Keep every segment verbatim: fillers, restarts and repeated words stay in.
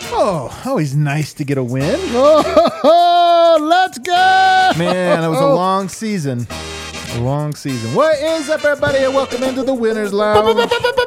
Oh, always nice to get a win. Oh, let's go! Man, it was a long season. A long season. What is up, everybody, and welcome into the Winners Lounge.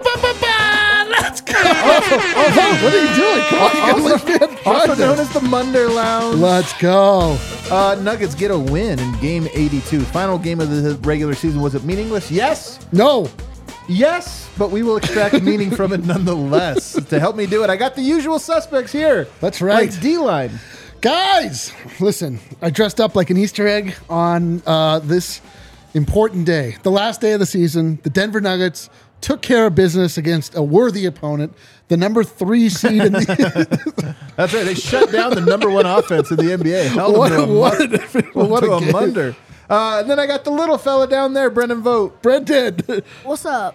Let's go! Oh, oh, what are you doing? Come on, you Also, gotta let me also have known as the Munder Lounge. Let's go. Uh, Nuggets get a win in game eighty-two. Final game of the regular season. Was it meaningless? Yes. No. Yes, but we will extract meaning from it nonetheless. To help me do it, I got the usual suspects here. That's right. Like D-line. Guys, listen, I dressed up like an Easter egg on uh, this important day. The last day of the season, the Denver Nuggets took care of business against a worthy opponent, the number three seed in the... That's right. They shut down the number one offense in the N B A. Held What them to a, what mon- a- what to a a game. munder. Uh, and then I got the little fella down there, Brendan Vogt. Brendan. What's up?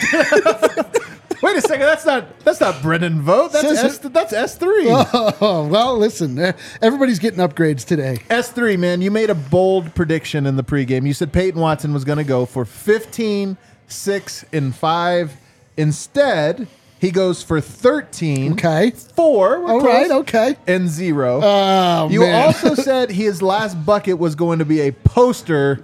Wait a second. That's not that's not Brendan Vogt. That's Says S, that's S three. Oh, well, listen, eh, everybody's getting upgrades today. S three, man. You made a bold prediction in the pregame. You said Peyton Watson was going to go for fifteen, six, and five. Instead, he goes for thirteen, Okay. four, we're All close, right, okay. and zero. Oh, you man. also said his last bucket was going to be a poster.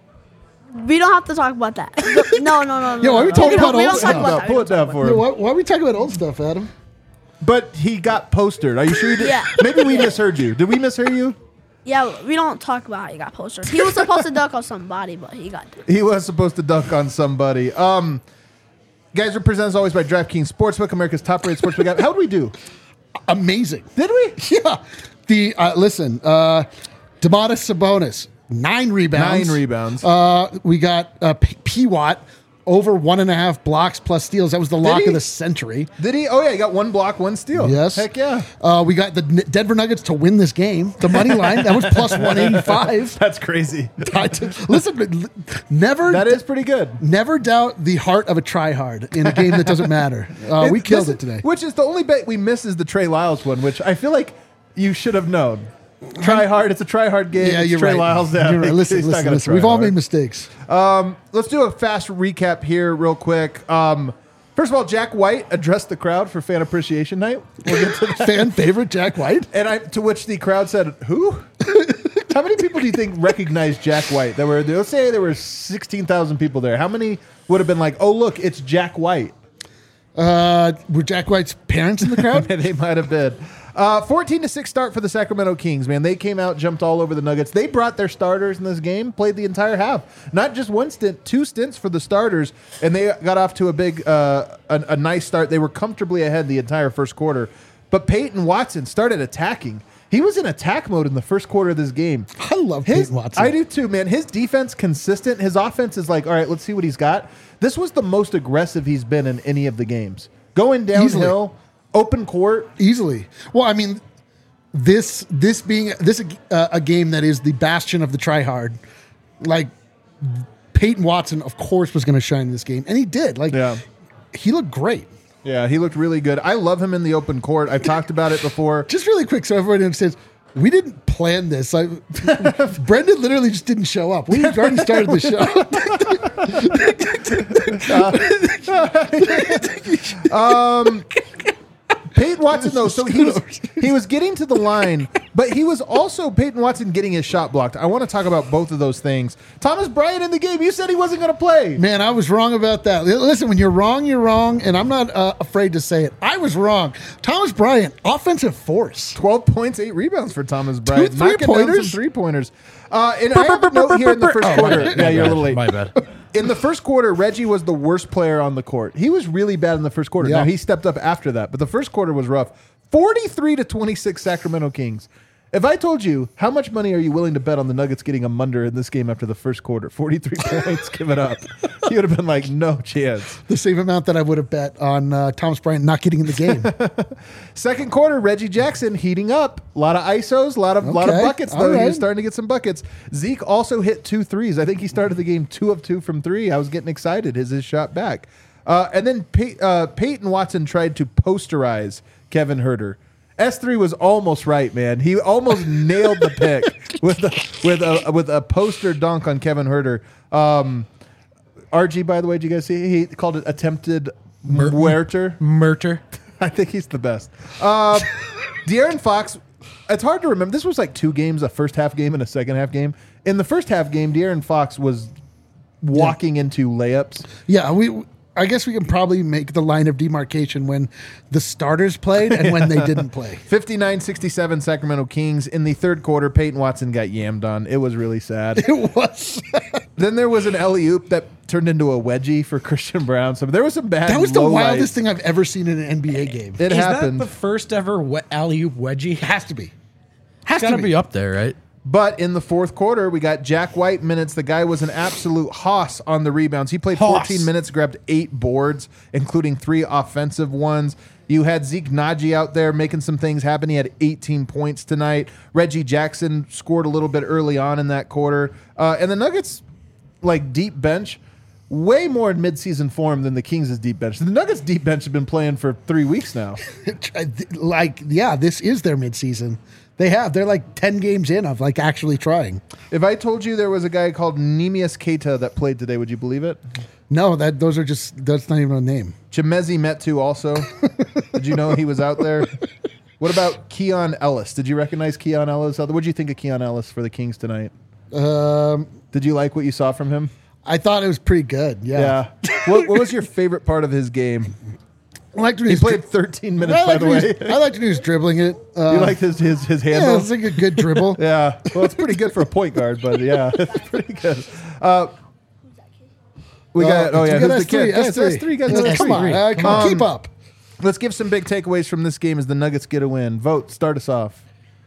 We don't have to talk about that. No, no, no, no. Yeah, why are we no. talking don't- about we old don't stuff? talk No, about that. pull We it don't down talk for Yeah, him. why, why are we talking about old stuff, Adam? But he got postered. Are you sure you did? Yeah. Maybe we misheard you. Did we mishear you? Yeah, we don't talk about how he got postered. He was supposed to dunk on somebody, but he got dunked. He was supposed to dunk on somebody. Um, guys, we're presented as always by DraftKings Sportsbook, America's top-rated sportsbook app. How did we do? Amazing. Did we? Yeah. The uh, listen, uh, Domantas Sabonis, nine rebounds. Nine rebounds. Uh, we got uh, P- P-Watt over one and a half blocks plus steals. That was the lock he? of the century. Did he? Oh, yeah, he got one block, one steal. Yes. Heck yeah. Uh, we got the N- Denver Nuggets to win this game. The money line that was plus one eighty-five. That's crazy. Listen, never. That is pretty good. Never doubt the heart of a tryhard in a game that doesn't matter. Uh, we It- killed this- it today. Which is the only bet we miss is the Trey Lyles one, which I feel like you should have known. Try hard. It's a try hard game. Yeah, It's you're Trey right. Lyles. Yeah, You're right. Listen, he's not listen, gonna listen. try We've all hard. made mistakes. Let's do a fast recap here, real quick. Um, first of all, Jack White addressed the crowd for Fan Appreciation Night. We'll get to that. Fan favorite Jack White. And I, to which the crowd said, "Who? How many people do you think recognized Jack White? There were, let's say, there were sixteen thousand people there. How many would have been like, oh look, it's Jack White? Uh, were Jack White's parents in the crowd? They might have been. Uh, fourteen to six start for the Sacramento Kings, man. They came out, jumped all over the Nuggets. They brought their starters in this game, played the entire half. Not just one stint, two stints for the starters, and they got off to a big, uh, a, a nice start. They were comfortably ahead the entire first quarter. But Peyton Watson started attacking. He was in attack mode in the first quarter of this game. I love His, Peyton Watson. I do too, man. His defense consistent. His offense is like, all right, let's see what he's got. This was the most aggressive he's been in any of the games. Going downhill, Easily. open court. Easily. Well, I mean, this this being this uh, a game that is the bastion of the tryhard, like Peyton Watson, of course, was going to shine in this game, and he did. Like, Yeah. he looked great. Yeah, he looked really good. I love him in the open court. I've talked about it before. Just really quick, so everybody understands. We didn't plan this. Like, Brendan literally just didn't show up. We already started the show. um, Peyton Watson, though, so he was he was getting to the line, but he was also Peyton Watson getting his shot blocked. I want to talk about both of those things. Thomas Bryant in the game. You said he wasn't going to play. Man, I was wrong about that. Listen, when you're wrong, you're wrong, and I'm not uh, afraid to say it. I was wrong. Thomas Bryant, offensive force. twelve points, eight rebounds for Thomas Bryant. Two Knocking down three-pointers? some three-pointers. Uh, and I have a note here in the first Oh, quarter. my Yeah, you're a little late. My bad. In the first quarter, Reggie was the worst player on the court. He was really bad in the first quarter. Yeah. Now, he stepped up after that, but the first quarter was rough. forty-three to twenty-six Sacramento Kings. If I told you, how much money are you willing to bet on the Nuggets getting a munder in this game after the first quarter? forty-three points, give it up. You would have been like, no chance. The same amount that I would have bet on uh, Thomas Bryant not getting in the game. Second quarter, Reggie Jackson heating up. A lot of I S Os, a lot of, lot of Okay, buckets, all though. He right. was starting to get some buckets. Zeke also hit two threes. I think he started the game two of two from three. I was getting excited. His, his shot back. Uh, and then Pey- uh, Peyton Watson tried to posterize Kevin Huerter. S three was almost right, man. He almost nailed the pick with a, with a with a poster dunk on Kevin Huerter. Um, R G, by the way, did you guys see? He called it attempted Mur- Huerter. Murter. I think he's the best. Uh, De'Aaron Fox, it's hard to remember. This was like two games, a first half game and a second half game. In the first half game, De'Aaron Fox was walking yeah. into layups. Yeah, we. I guess we can probably make the line of demarcation when the starters played and when they didn't play. fifty-nine sixty-seven Sacramento Kings. In the third quarter, Peyton Watson got yammed on. It was really sad. It was. Then there was an alley-oop that turned into a wedgie for Christian Brown. So there was some bad That was the wildest lights. thing I've ever seen in an N B A game. It Is happened. that the first ever we- alley-oop wedgie? Has to be. Has It's got to to be. be up there, right? But in the fourth quarter, we got Jack White minutes. The guy was an absolute hoss on the rebounds. He played Hoss. fourteen minutes, grabbed eight boards, including three offensive ones. You had Zeke Naji out there making some things happen. He had eighteen points tonight. Reggie Jackson scored a little bit early on in that quarter. Uh, and the Nuggets, like deep bench, way more in midseason form than the Kings' deep bench. The Nuggets' deep bench have been playing for three weeks now. Like, yeah, this is their midseason. They have. They're like ten games in of like actually trying. If I told you there was a guy called Neemias Keita that played today, would you believe it? No, that those are just that's not even a name. Chimezi Metu also. Did you know he was out there? What about Keon Ellis? Did you recognize Keon Ellis? What did you think of Keon Ellis for the Kings tonight? Um, Did you like what you saw from him? I thought it was pretty good. Yeah. Yeah. what, what was your favorite part of his game? I liked when He was played dri- thirteen minutes, I by liked the when way. he was- I liked when he was dribbling it. Uh, You liked his his, his yeah, handle? it was like a good dribble. Yeah. Well, it's pretty good for a point guard, but yeah, it's pretty good. Uh, we got, Uh, oh yeah, we got who's the kid? S three. S three, guys. Uh, Come on, uh, come on, Um, keep up. Let's give some big takeaways from this game as the Nuggets get a win. Vote, start us off.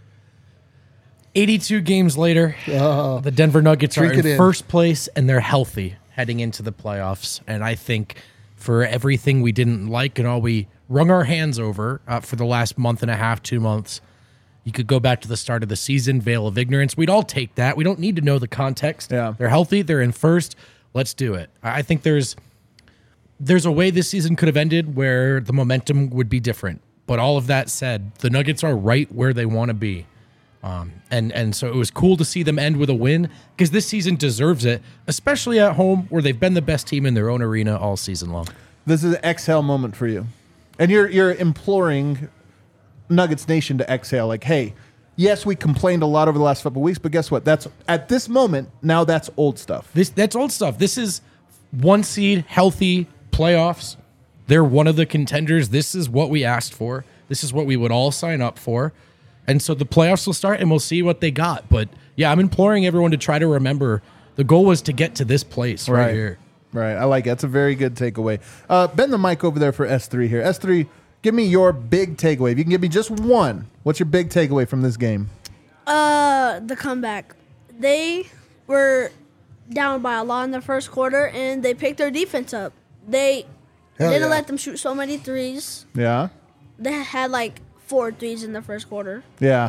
eighty-two games later, Uh, the Denver Nuggets are drink in, it in. first place, and they're healthy heading into the playoffs. And I think for everything we didn't like and all we wrung our hands over uh, for the last month and a half, two months, you could go back to the start of the season, veil of ignorance. We'd all take that. We don't need to know the context. Yeah. They're healthy. They're in first. Let's do it. I I think there's there's a way this season could have ended where the momentum would be different. But all of that said, the Nuggets are right where they want to be. Um, and, and so it was cool to see them end with a win because this season deserves it, especially at home where they've been the best team in their own arena all season long. This is an exhale moment for you. And you're you're imploring Nuggets Nation to exhale. Like, hey, yes, we complained a lot over the last couple of weeks, but guess what? That's at this moment, now that's old stuff. This That's old stuff. This is one seed, healthy playoffs. They're one of the contenders. This is what we asked for. This is what we would all sign up for. And so the playoffs will start and we'll see what they got. But yeah, I'm imploring everyone to try to remember the goal was to get to this place right, Right. here. Right. I like it. That's a very good takeaway. Uh, bend the mic over there for S three here. S three, give me your big takeaway. If you can give me just one, what's your big takeaway from this game? Uh, the comeback. They were down by a lot in the first quarter, and they picked their defense up. They Hell didn't yeah. let them shoot so many threes. Yeah. They had like four threes in the first quarter. Yeah.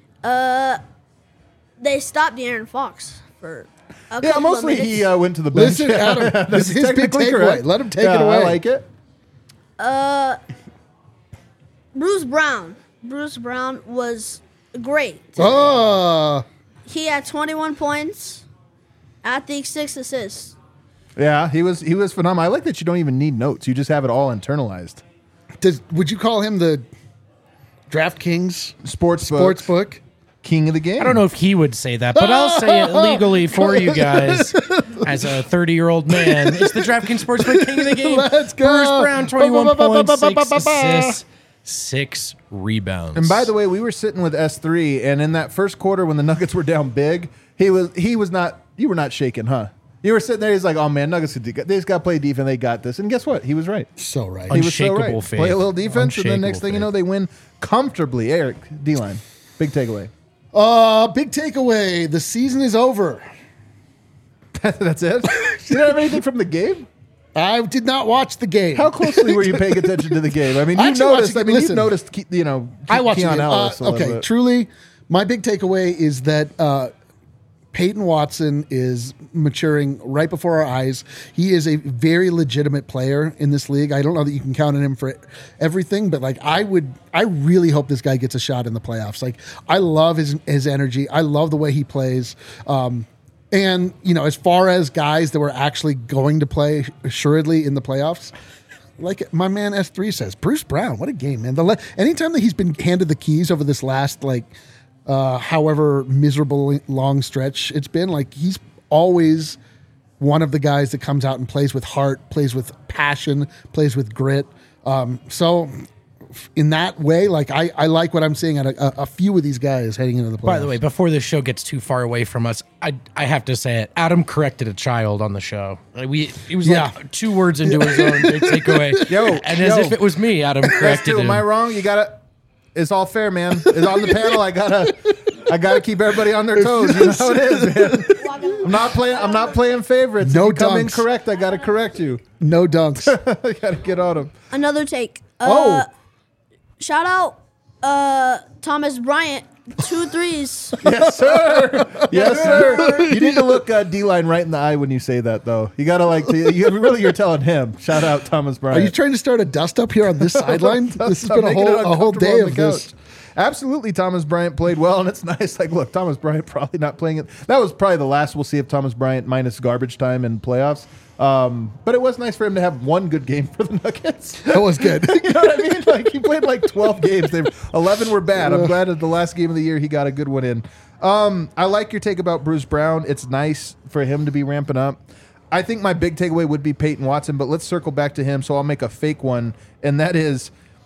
They stopped De'Aaron Fox for a Yeah, couple mostly of minutes. he uh, went to the bench. Listen, Adam, this That's is his big technically takeaway. correct. Let him take Yeah, it away. I like it. Bruce Brown. Bruce Brown was great. Oh, He had twenty-one points, I think six assists. Yeah, he was he was phenomenal. I like that you don't even need notes. You just have it all internalized. does would you call him the DraftKings Sports sports book? king of the game. I don't know if he would say that, but I'll say it legally for you guys as a thirty-year-old man. It's the DraftKings Sportsbook King of the Game. Let's go. Bruce Brown, twenty-one Ba, ba, ba, points, ba, ba, six ba, ba, ba. assists, six rebounds. And by the way, we were sitting with S three, and in that first quarter when the Nuggets were down big, he was he was not. You were not shaking, huh? You were sitting there. He's like, "Oh man, Nuggets, they just got to play defense. They got this." And guess what? He was right. So right. He was so Unshakable right. faith. Play a little defense, and then next Unshakable thing you know, faith. they win comfortably. Eric, D-line, big takeaway. Uh, big takeaway. The season is over. That's it. You don't have anything from the game? I did not watch the game. How closely were you paying attention to the game? I mean, you I actually watched noticed. the I game. mean, you Listen. noticed. Ke- You know, I watched the Keon game. Uh, Ellis a little okay, bit. truly, my big takeaway is that uh, Peyton Watson is maturing right before our eyes. He is a very legitimate player in this league. I don't know that you can count on him for everything, but like I would, I really hope this guy gets a shot in the playoffs. Like I love his his energy. I love the way he plays. Um, and you know, as far as guys that were actually going to play assuredly in the playoffs, like my man S three says, Bruce Brown, what a game, man. The le- anytime that he's been handed the keys over this last, like, uh, however miserable long stretch it's been, like, he's always one of the guys that comes out and plays with heart, plays with passion, plays with grit. Um, so in that way, like, I, I like what I'm seeing at a, a few of these guys heading into the playoffs. By the way, before this show gets too far away from us, I I have to say it. Adam corrected a child on the show. Like we he was Yeah. like two words into his own big takeaway. Yo, and yo. as if it was me, Adam That's corrected too. him. Am I wrong? You gotta. It's all fair, man. It's on the panel. I gotta. I gotta keep everybody on their toes. You know how it is, man. I'm not playing. I'm not playing favorites. No if you come dunks. incorrect, I gotta correct you. No dunks. I gotta get on them. Another take. Oh. Uh, shout out uh, Thomas Bryant. Two threes. Yes, sir. Yes, sir. You need to look uh, D-Line right in the eye when you say that, though. You gotta like. To, you really, you're telling him. Shout out Thomas Are Bryant. you trying to start a dust up here on this sideline? This has I'm been a making whole it a whole uncomfortable day on of the this. couch. Absolutely, Thomas Bryant played well, and it's nice. Like, look, Thomas Bryant probably not playing it. That was probably the last we'll see of Thomas Bryant minus garbage time in playoffs. Um, but it was nice for him to have one good game for the Nuggets. That was good. You know what I mean? Like, he played like twelve games. They eleven were bad. I'm glad at the last game of the year he got a good one in. Um, I like your take about Bruce Brown. It's nice for him to be ramping up. I think my big takeaway would be Peyton Watson, but let's circle back to him. So I'll make a fake one, and that is,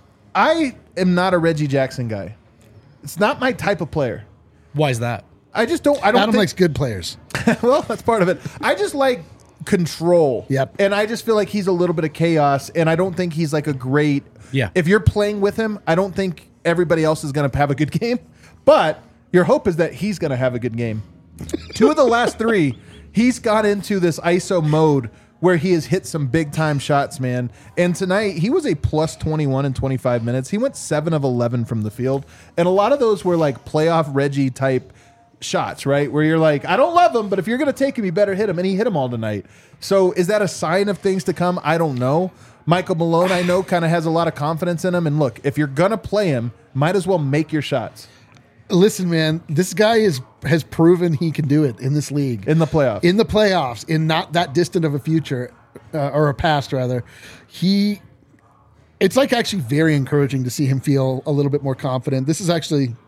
I am not a Reggie Jackson guy. It's not my type of player. Why is that? I just don't. I don't. Adam think, likes good players. well, that's part of it. I just like control. Yep. And I just feel like he's a little bit of chaos, and I don't think he's like a great. Yeah. If you're playing with him, I don't think everybody else is going to have a good game, but your hope is that he's going to have a good game. Two of the last three, he's got into this I S O mode where he has hit some big time shots, man. And tonight he was a plus twenty-one in twenty-five minutes. He went seven of eleven from the field, and a lot of those were like playoff Reggie type shots, right? Where you're like, I don't love him, but if you're going to take him, you better hit him. And he hit them all tonight. So is that a sign of things to come? I don't know. Michael Malone, I know, kind of has a lot of confidence in him. And look, if you're going to play him, might as well make your shots Listen, man, this guy is has proven he can do it in this league. in the playoffs. In the playoffs, in not that distant of a future, uh, or a past rather. He, it's like actually very encouraging to see him feel a little bit more confident. This is actually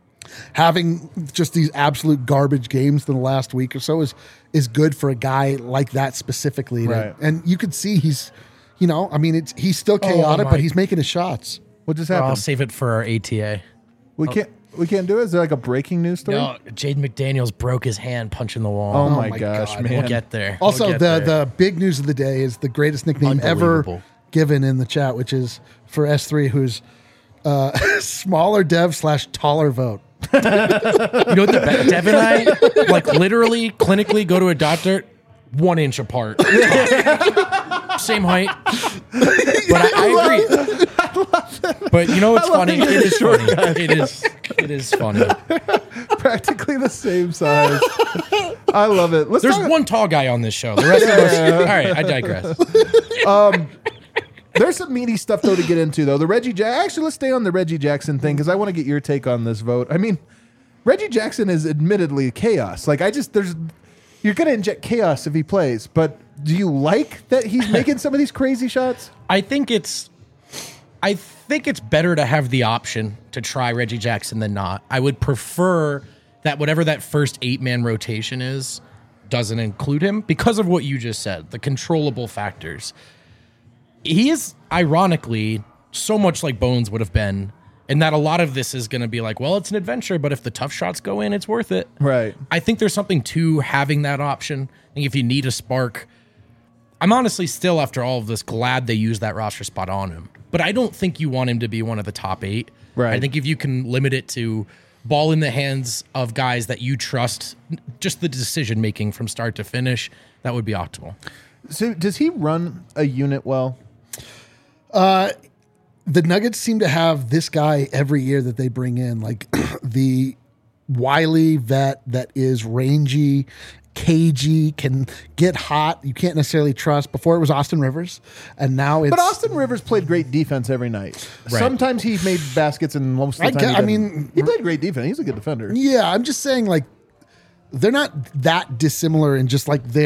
having just these absolute garbage games in the last week or so is is good for a guy like that specifically. to- Right. And you could see he's, you know, I mean, it's he's still chaotic, my- but he's making his shots. what just I'll happened? save it for our A T A. We can't. We can't do it. Is there like a breaking news story? No, Jaden McDaniels broke his hand punching the wall. Oh, my, my gosh, God. man! We'll get there. Also, We'll get the there. the big news of the day is the greatest nickname ever Unbelievable. given in the chat, which is for S three, who's uh, smaller dev slash taller vote. You know what the be- Dev and I like literally clinically go to a doctor one inch apart. Same height. But I, I agree. But you know what's funny? It is funny. It is it is funny. Practically the same size. I love it. Let's There's talk- one tall guy on this show. The rest of us. All right, I digress. There's some meaty stuff though to get into though. The Reggie Jack. Actually, let's stay on the Reggie Jackson thing because I want to get your take on this vote. I mean, Reggie Jackson is admittedly chaos. Like I just there's you're gonna inject chaos if he plays, but do you like that he's making some of these crazy shots? I think it's I think it's better to have the option to try Reggie Jackson than not. I would prefer that whatever that first eight-man rotation is doesn't include him because of what you just said, the controllable factors. He is ironically so much like Bones would have been, and that a lot of this is going to be like, well, it's an adventure, but if the tough shots go in, it's worth it. Right. I think there's something to having that option. I think if you need a spark, I'm honestly still, after all of this, glad they used that roster spot on him. But I don't think you want him to be one of the top eight. Right. I think if you can limit it to ball in the hands of guys that you trust, just the decision making from start to finish, that would be optimal. So does he run a unit well? The Nuggets seem to have this guy every year that they bring in, like the wily vet that is rangy, cagey, can get hot. You can't necessarily trust. Before it was Austin Rivers, and now it's. But Austin Rivers played great defense every night. Right. Sometimes he made baskets, and most of I the time, get- he I didn't. mean- he played great defense. He's a good defender. Yeah, I'm just saying, like, they're not that dissimilar in just like their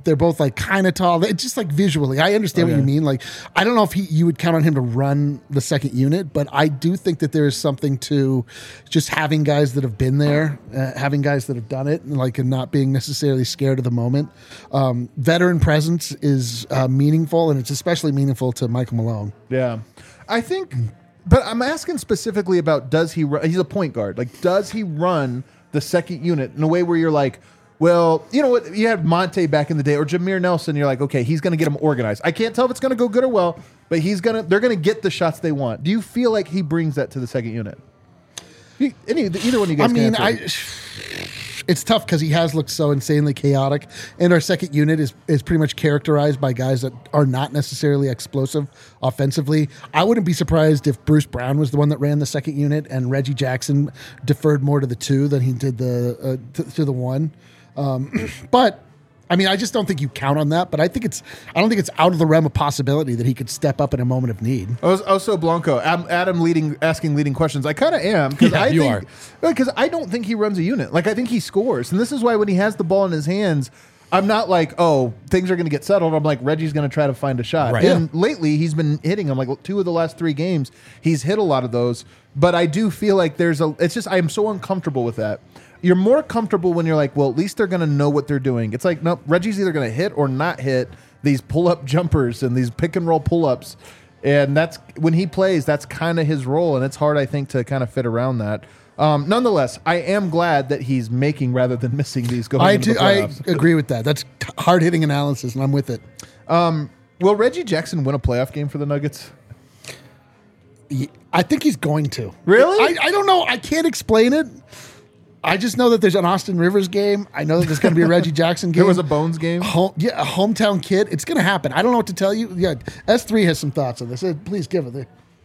they're both like kind of tall. It's just like visually. I understand Okay. what you mean. Like, I don't know if he you would count on him to run the second unit, but I do think that there is something to just having guys that have been there, uh, having guys that have done it, and like and not being necessarily scared of the moment. Um, veteran presence is uh, meaningful, and it's especially meaningful to Michael Malone. Yeah, I think, but I'm asking specifically about does he run? He's a point guard. Like, does he run the second unit in a way where you're like, well, you know what? You had Monte back in the day or Jameer Nelson. You're like, okay, he's going to get them organized. I can't tell if it's going to go good or well, but he's gonna. They're going to get the shots they want. Do you feel like he brings that to the second unit? You, any either one of you guys? I mean, can I. answer. It's tough because he has looked so insanely chaotic, and our second unit is is pretty much characterized by guys that are not necessarily explosive offensively. I wouldn't be surprised if Bruce Brown was the one that ran the second unit, and Reggie Jackson deferred more to the two than he did the uh, to, to the one. Um, but I mean, I just don't think you count on that. But I think it's I don't think it's out of the realm of possibility that he could step up in a moment of need. Oh, oh, so Blanco, Adam, Adam leading, asking leading questions. I kind of am because Yeah, I you think because I don't think he runs a unit. Like I think he scores, and this is why when he has the ball in his hands, I'm not like, oh, things are going to get settled. I'm like, Reggie's going to try to find a shot. Right. And lately, he's been hitting them. Like two of the last three games, he's hit a lot of those. But I do feel like there's a. It's just I am so uncomfortable with that. You're more comfortable when you're like, well, at least they're going to know what they're doing. It's like, nope, Reggie's either going to hit or not hit these pull-up jumpers and these pick-and-roll pull-ups. And that's when he plays, that's kind of his role. And it's hard, I think, to kind of fit around that. Um, nonetheless, I am glad that he's making rather than missing these going I into do, the I playoffs. agree with that. That's hard hitting analysis, and I'm with it. Will Reggie Jackson win a playoff game for the Nuggets? I think he's going to. Really? I, I don't know. I can't explain it. I just know that there's an Austin Rivers game. I know that there's going to be a Reggie Jackson game. There was a Bones game. Home, yeah, a hometown kid. It's going to happen. I don't know what to tell you. Yeah, S three has some thoughts on this. Uh, Please give it.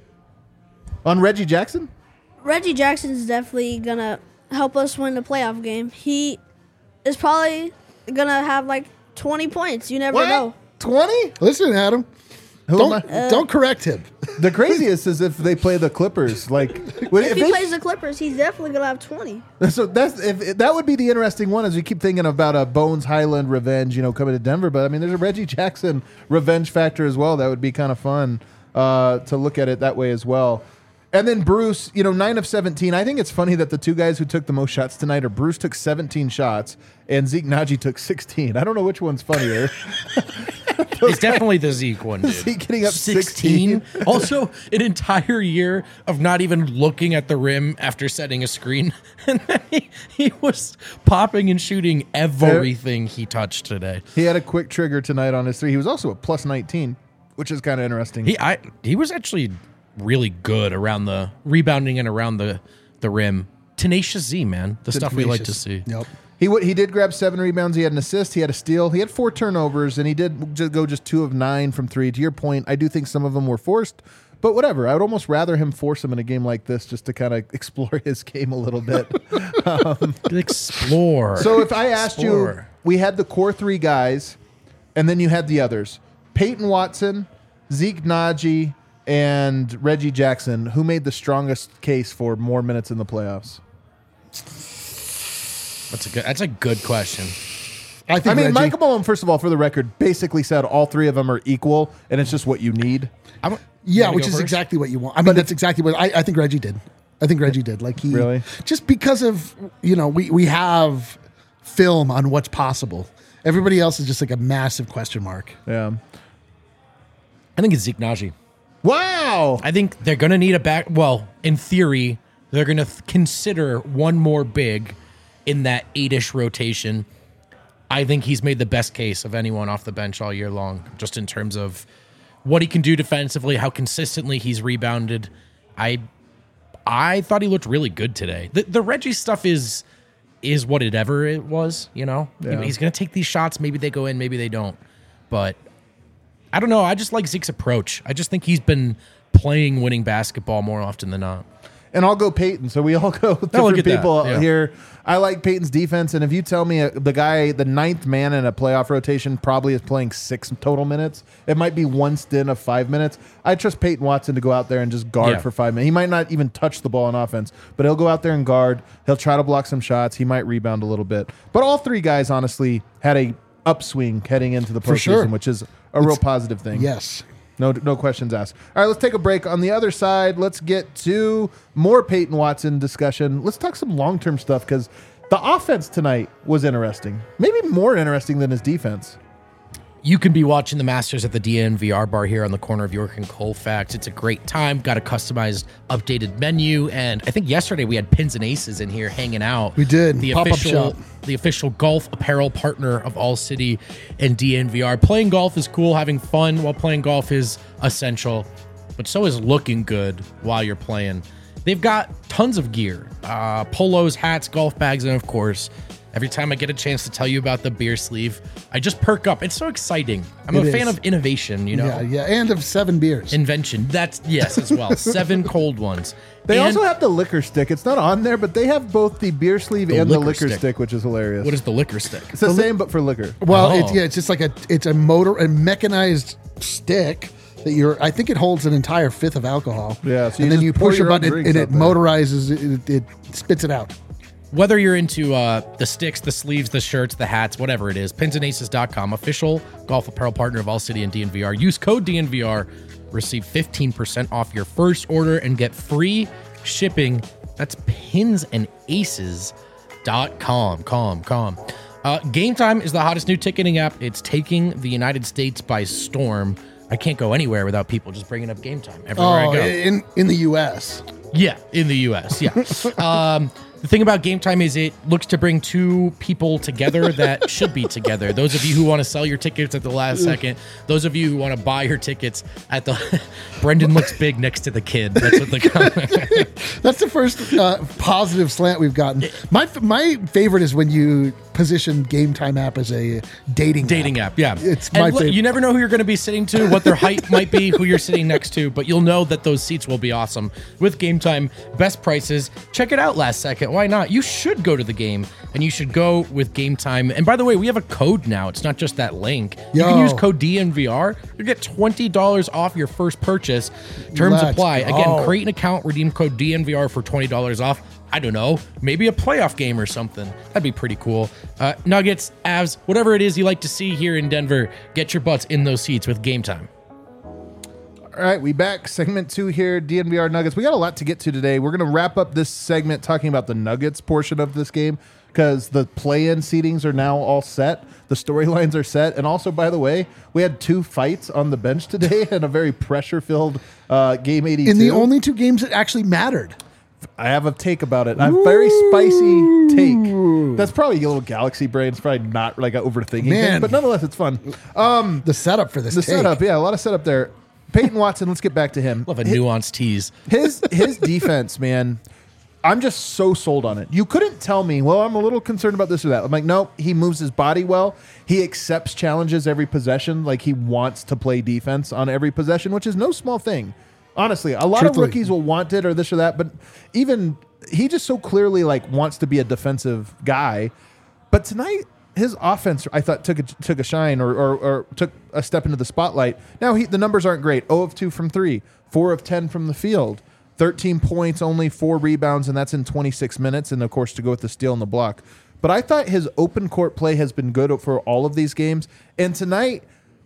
On Reggie Jackson? Reggie Jackson is definitely gonna help us win the playoff game. He is probably gonna have like twenty points. You never know. twenty? Listen, Adam. Who Don't am I- don't correct him. The craziest is if they play the Clippers. Like, when- If if he they- plays the Clippers, he's definitely gonna have twenty. so that's if, if that would be the interesting one. As we keep thinking about a Bones Highland revenge, you know, coming to Denver. But I mean, there's a Reggie Jackson revenge factor as well. That would be kind of fun uh, to look at it that way as well. And then Bruce, you know, nine of seventeen. I think it's funny that the two guys who took the most shots tonight are Bruce took seventeen shots and Zeke Naji took sixteen. I don't know which one's funnier. It's definitely the Zeke one, dude. Zeke getting up sixteen. Also, an entire year of not even looking at the rim after setting a screen. And then he, he was popping and shooting everything he touched today. He had a quick trigger tonight on his three. He was also a plus nineteen, which is kind of interesting. He I he was actually really good around the rebounding and around the, the rim. Tenacious Z, man. The stuff we like to see. Yep. He w- he did grab seven rebounds. He had an assist. He had a steal. He had four turnovers, and he did just go just two of nine from three. To your point, I do think some of them were forced, but whatever. I would almost rather him force them in a game like this just to kind of explore his game a little bit. Explore. So if I asked you, Explore. we had the core three guys, and then you had the others: Peyton Watson, Zeke Naji, and Reggie Jackson. Who made the strongest case for more minutes in the playoffs? That's a good that's a good question. I think I mean, Reggie, Michael Malone, first of all, for the record, basically said all three of them are equal, and it's just what you need. I'm, you yeah, wanna which go is first? exactly what you want. I mean, that's exactly what I, I think Reggie did. I think Reggie did. Like he Really? just because of you know we we have film on what's possible. Everybody else is just like a massive question mark. Yeah. I think it's Zeke Naji. Wow. I think they're going to need a back. Well, in theory, they're going to th- consider one more big in that eight-ish rotation. I think he's made the best case of anyone off the bench all year long, just in terms of what he can do defensively, how consistently he's rebounded. I I thought he looked really good today. The, the Reggie stuff is is what it ever it was, you know? Yeah. He's going to take these shots. Maybe they go in, maybe they don't. But I don't know. I just like Zeke's approach. I just think he's been playing winning basketball more often than not. And I'll go Peyton. So we all go look different at that. people Yeah. here. I like Peyton's defense. And if you tell me uh, the guy, the ninth man in a playoff rotation probably is playing six total minutes, it might be one stint of five minutes. I trust Peyton Watson to go out there and just guard Yeah. for five minutes. He might not even touch the ball on offense, but he'll go out there and guard. He'll try to block some shots. He might rebound a little bit. But all three guys, honestly, had a upswing heading into the For postseason, sure. which is a real positive thing. Yes. No, no questions asked. All right, let's take a break. On the other side, let's get to more Peyton Watson discussion. Let's talk some long-term stuff because the offense tonight was interesting. Maybe more interesting than his defense. You can be watching the Masters at the D N V R bar here on the corner of York and Colfax. It's a great time. Got a customized, updated menu, and I think yesterday we had Pins and Aces in here hanging out. We did. The Pop-up official, shop. the official golf apparel partner of All City and D N V R. Playing golf is cool. Having fun while playing golf is essential, but so is looking good while you're playing. They've got tons of gear, uh, polos, hats, golf bags, and of course, every time I get a chance to tell you about the beer sleeve, I just perk up. It's so exciting. I'm It a fan is. of innovation, you know? Yeah, yeah, and of seven beers. Invention. That's, yes, as well. Seven cold ones. They And also have the liquor stick. It's not on there, but they have both the beer sleeve The and the liquor liquor stick. stick. which is hilarious. What is the liquor stick? It's the same, but for liquor. Well, Oh. it's yeah, it's just like a it's a motor a mechanized stick that you're. I think it holds an entire fifth of alcohol. Yeah, so you and then just you pour push a your own button drinks and out it there. motorizes it, it, it spits it out. Whether you're into uh, the sticks, the sleeves, the shirts, the hats, whatever it is, pins and aces dot com, official golf apparel partner of All City and D N V R. Use code D N V R, receive fifteen percent off your first order, and get free shipping. That's pins and aces dot com. Com, com. Uh, Game Time is the hottest new ticketing app. It's taking the United States by storm. I can't go anywhere without people just bringing up Game Time everywhere Oh, I go. in in the U S. Yeah, in the U S. Yeah. um, the thing about Game Time is it looks to bring two people together that should be together. Those of you who want to sell your tickets at the last second, those of you who want to buy your tickets at the. Brendan looks big next to the kid. That's what the. That's the first uh, positive slant we've gotten. My my favorite is when you position Game Time app as a dating Dating app, yeah. It's And my look, favorite. you never know who you're going to be sitting to, what their height might be, who you're sitting next to, but you'll know that those seats will be awesome. With Game Time, best prices. Check it out last second. Why not? You should go to the game, and you should go with Game Time. And by the way, we have a code now. It's not just that link. You can Yo. use code D N V R. You get twenty dollars off your first purchase. Terms Let's apply. go. Again, create an account, redeem code D N V R for twenty dollars off. I don't know, maybe a playoff game or something. That'd be pretty cool. Uh, Nuggets, Avs, whatever it is you like to see here in Denver, get your butts in those seats with Game Time. All right, we back. Segment two here, D N V R Nuggets. We got a lot to get to today. We're going to wrap up this segment talking about the Nuggets portion of this game because the play-in seedings are now all set. The storylines are set. And also, by the way, we had two fights on the bench today and a very pressure-filled uh, game eighty-two. in the only two games that actually mattered. I have a take about it. A very spicy take. That's probably a little galaxy brain. It's probably not like overthinking thing, Man. but nonetheless, it's fun. The setup for this. The take. setup, yeah, a lot of setup there. Peyton Watson, let's get back to him. Love a nuanced tease. His his defense, man, I'm just so sold on it. You couldn't tell me, well, I'm a little concerned about this or that. I'm like, nope, he moves his body well. He accepts challenges every possession. Like he wants to play defense on every possession, which is no small thing. Honestly, a lot Truthfully. of rookies will want it or this or that, but even he just so clearly like wants to be a defensive guy. But tonight, his offense, I thought, took a, took a shine or, or, or took a step into the spotlight. Now, he, the numbers aren't great. zero of two from three, four of ten from the field, thirteen points, only four rebounds, and that's in twenty-six minutes, and, of course, to go with the steal and the block. But I thought his open court play has been good for all of these games. And tonight,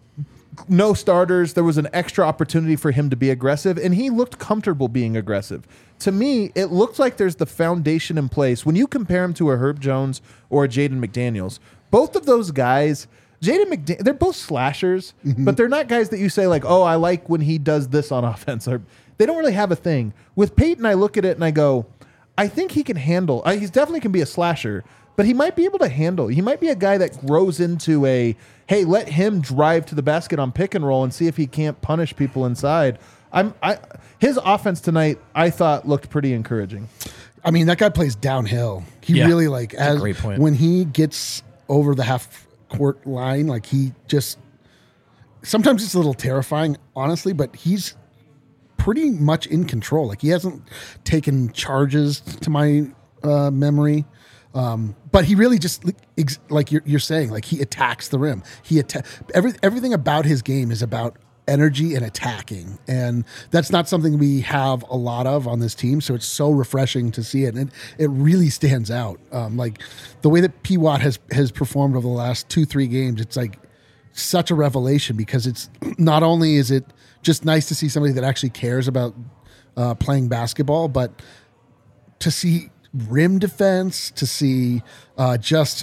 no starters. There was an extra opportunity for him to be aggressive, and he looked comfortable being aggressive. To me, it looks like there's the foundation in place. When you compare him to a Herb Jones or a Jaden McDaniels, both of those guys, Jaden McDaniels, they're both slashers, but they're not guys that you say like, oh, I like when he does this on offense. Or they don't really have a thing. With Peyton, I look at it and I go, I think he can handle. Uh, he's definitely can be a slasher, but he might be able to handle. He might be a guy that grows into a, hey, let him drive to the basket on pick and roll and see if he can't punish people inside. I'm I his offense tonight, I thought looked pretty encouraging. I mean, that guy plays downhill. He Yeah, really like that's a as great point. when he gets over the half court line, like he just sometimes it's a little terrifying, honestly, but he's pretty much in control. Like he hasn't taken charges to my uh, memory. Um, but he really just ex- like you're, you're saying, like he attacks the rim. He atta- every everything about his game is about energy and attacking. And that's not something we have a lot of on this team. So it's so refreshing to see it. And it, it really stands out. Um, like the way that P. Watt has, has performed over the last two, three games, it's like such a revelation because it's not only is it just nice to see somebody that actually cares about uh, playing basketball, but to see rim defense, to see uh, just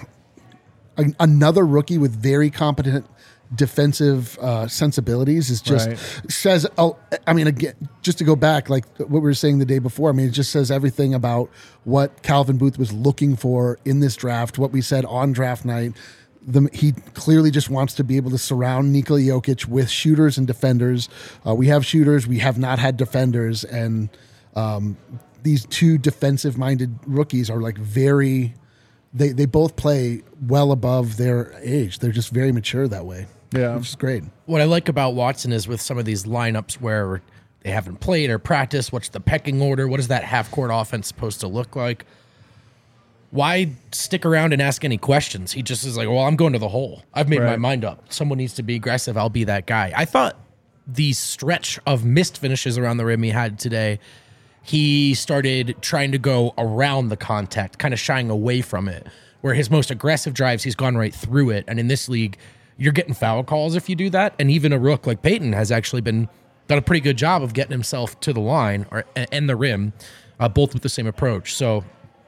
a, another rookie with very competent defensive uh, sensibilities is just Right. says, oh, I mean, again, just to go back, like what we were saying the day before, I mean, it just says everything about what Calvin Booth was looking for in this draft, what we said on draft night. The, he clearly just wants to be able to surround Nikola Jokic with shooters and defenders. Uh, we have shooters, we have not had defenders, and um, these two defensive-minded rookies are like very. They they both play well above their age. They're just very mature that way. Yeah. Which is great. What I like about Watson is with some of these lineups where they haven't played or practiced, what's the pecking order? What is that half-court offense supposed to look like? Why stick around and ask any questions? He just is like, well, I'm going to the hole. I've made my Right. mind up. Someone needs to be aggressive. I'll be that guy. I thought the stretch of missed finishes around the rim he had today, he started trying to go around the contact, kind of shying away from it, where his most aggressive drives, he's gone right through it. And in this league, you're getting foul calls if you do that. And even a rook like Peyton has actually been done a pretty good job of getting himself to the line or and the rim, uh, both with the same approach. So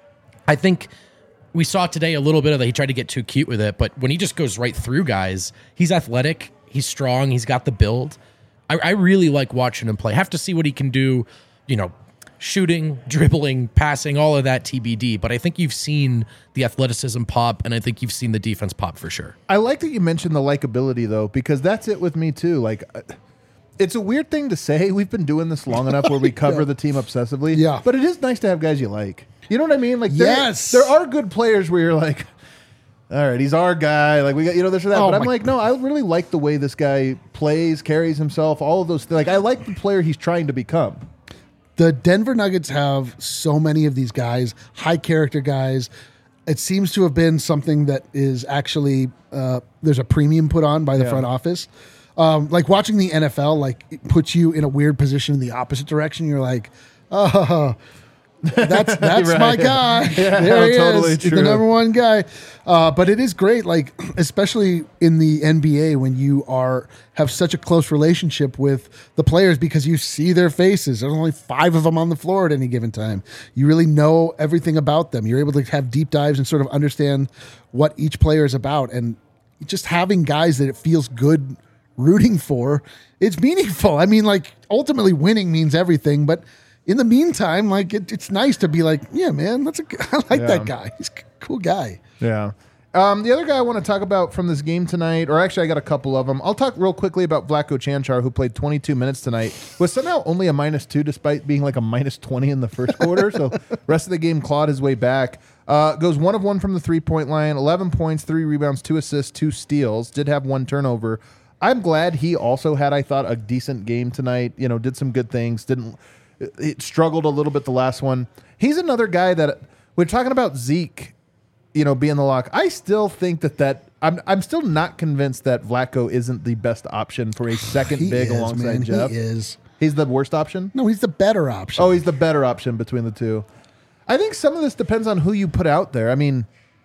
I think we saw today a little bit of that. He tried to get too cute with it, but when he just goes right through guys, he's athletic, he's strong, he's got the build. I, I really like watching him play. Have to see what he can do, you know, shooting, dribbling, passing, all of that T B D. But I think you've seen the athleticism pop, and I think you've seen the defense pop for sure. I like that you mentioned the likability, though, because that's it with me, too. Like, uh, it's a weird thing to say. We've been doing this long enough where we cover Yeah. the team obsessively. Yeah. But it is nice to have guys you like. You know what I mean? Like, there, Yes. there are good players where you're like, all right, he's our guy. Like, we got, you know, this or that. Oh but I'm my- like, no, I really like the way this guy plays, carries himself, all of those things. Like, I like the player he's trying to become. The Denver Nuggets have so many of these guys, high character guys. It seems to have been something that is actually uh, there's a premium put on by the Yeah. front office. Um, like watching the N F L, like it puts you in a weird position in the opposite direction. You're like, oh, that's that's Right. my guy. Yeah, there he totally is. He's true. the number one guy. Uh, but it is great, like especially in the N B A when you are have such a close relationship with the players because you see their faces. There's only five of them on the floor at any given time. You really know everything about them. You're able to have deep dives and sort of understand what each player is about. And just having guys that it feels good rooting for, it's meaningful. I mean, like ultimately winning means everything, but in the meantime, like it, it's nice to be like, yeah, man, that's a I like Yeah. that guy. He's a cool guy. Yeah. Um, the other guy I want to talk about from this game tonight, or actually I got a couple of them. I'll talk real quickly about Vlatko Čančar, who played twenty-two minutes tonight, was somehow only a minus two despite being like a minus twenty in the first quarter. So rest of the game clawed his way back. Uh, goes one of one from the three-point line, eleven points, three rebounds, two assists, two steals. Did have one turnover. I'm glad he also had, I thought, a decent game tonight. You know, did some good things. Didn't it struggled a little bit the last one. He's another guy that we're talking about Zeke, you know, being the lock. I still think that that I'm I'm still not convinced that Vlatko isn't the best option for a second He big is, alongside man. Jeff. He is. He's the worst option. No, he's the better option. Oh, he's the better option between the two. I think some of this depends on who you put out there. I mean,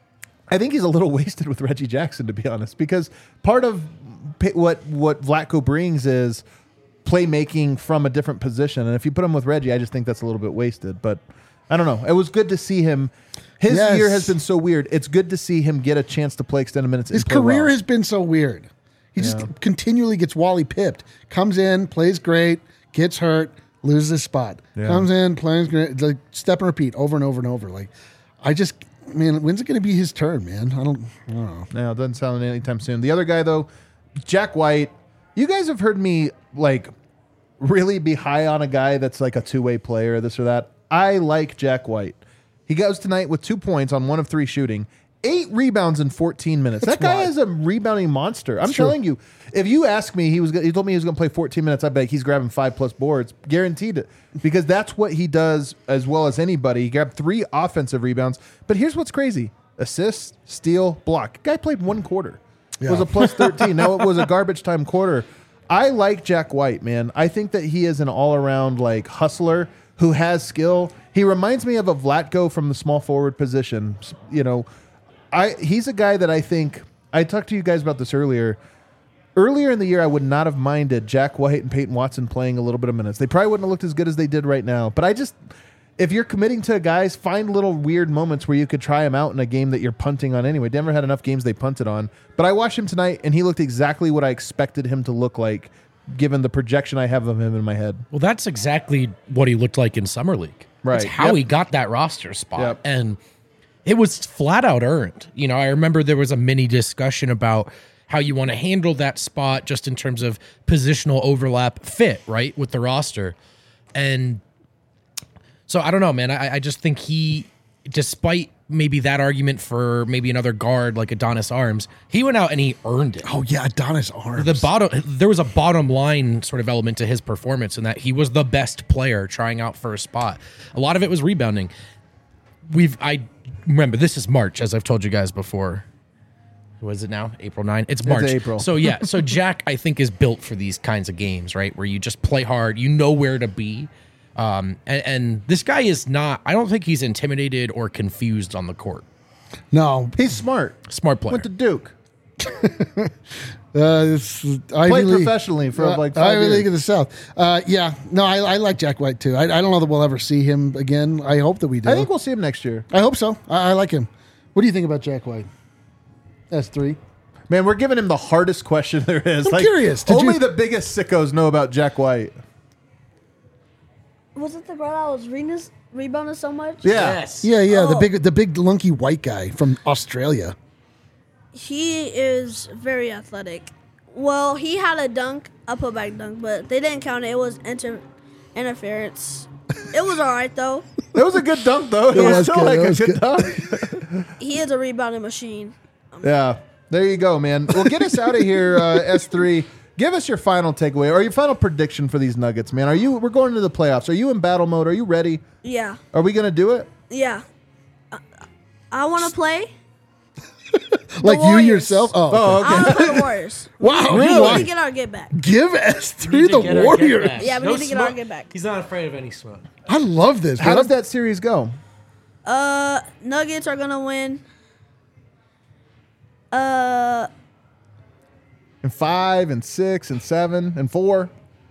I think he's a little wasted with Reggie Jackson, to be honest, because part of pa- what what Vlatko brings is playmaking from a different position, and if you put him with Reggie, I just think that's a little bit wasted. But I don't know. It was good to see him. His Yes. year has been so weird. It's good to see him get a chance to play extended minutes. His and play career well. has been so weird. He just Yeah. continually gets Wally pipped. Comes in, plays great, gets hurt, loses his spot. Yeah. Comes in, plays great. It's like step and repeat over and over and over. Like, I just, man, when's it going to be his turn, man? I don't, I don't know. No, it doesn't sound anytime soon. The other guy, though, Jack White. You guys have heard me like really be high on a guy that's like a two-way player, this or that. I like Jack White. He goes tonight with two points on one of three shooting, eight rebounds in fourteen minutes. That's that guy wild. is a rebounding monster. I'm It's true. telling you, if you ask me, he was he told me he was going to play fourteen minutes. I bet he's grabbing five plus boards, guaranteed it, because that's what he does as well as anybody. He grabbed three offensive rebounds. But here's what's crazy: assist, steal, block. Guy played one quarter. It was Yeah. a plus thirteen. Now it was a garbage time quarter. I like Jack White, man. I think that he is an all-around like hustler who has skill. He reminds me of a Vlatko from the small forward position. You know, I he's a guy that I think I talked to you guys about this earlier. Earlier in the year, I would not have minded Jack White and Peyton Watson playing a little bit of minutes. They probably wouldn't have looked as good as they did right now. But I just, if you're committing to guys, find little weird moments where you could try him out in a game that you're punting on anyway. Denver had enough games they punted on. But I watched him tonight, and he looked exactly what I expected him to look like, given the projection I have of him in my head. Well, that's exactly what he looked like in Summer League. Right. That's how Yep. he got that roster spot. Yep. And it was flat out earned. You know, I remember there was a mini discussion about how you want to handle that spot just in terms of positional overlap fit, right, with the roster. And so I don't know, man. I, I just think he, despite maybe that argument for maybe another guard like Adonis Arms, he went out and he earned it. Oh yeah, Adonis Arms. The bottom, there was a bottom line sort of element to his performance in that he was the best player trying out for a spot. A lot of it was rebounding. We've, I remember this is March, as I've told you guys before. Was it now? April ninth? It's March. April. So yeah, so Jack, I think, is built for these kinds of games, right? Where you just play hard, you know where to be. Um, and, and this guy is not, I don't think he's intimidated or confused on the court. No, He's smart. Smart player. Went to Duke. uh, it's Ivy Played League. professionally for Uh, like five Ivy years. League of the South. Uh, yeah, no, I, I like Jack White too. I, I don't know that we'll ever see him again. I hope that we do. I think we'll see him next year. I hope so. I, I like him. What do you think about Jack White? S three. Man, we're giving him the hardest question there is. I'm curious. Did Only you- the biggest sickos know about Jack White. Was it the girl that was re- rebounding so much? Yeah. Yes. Yeah, yeah, the Oh. big, the big lunky white guy from Australia. He is very athletic. Well, he had a dunk, a putback dunk, but they didn't count it. It was inter- interference. It was all right, though. It was a good dunk, though. It, It was was still good. like It a was good good. dunk. He is a rebounding machine. Yeah. There you go, man. Well, get us out of here, uh, S three. Give us your final takeaway or your final prediction for these Nuggets, man. Are you? We're going into the playoffs. Are you in battle mode? Are you ready? Yeah, Are we going to do it? yeah. I, I want to play. Like you Warriors. yourself? Oh, okay. Oh, I okay. want to play the Warriors. Wow, We really? need to get our get back. Give S three Need to the get our get Warriors. back. Yeah, we need to get our get back. He's not afraid of any smoke. I love this. How man. does that series go? Uh, Nuggets are gonna win. Uh, And five and six and seven and four.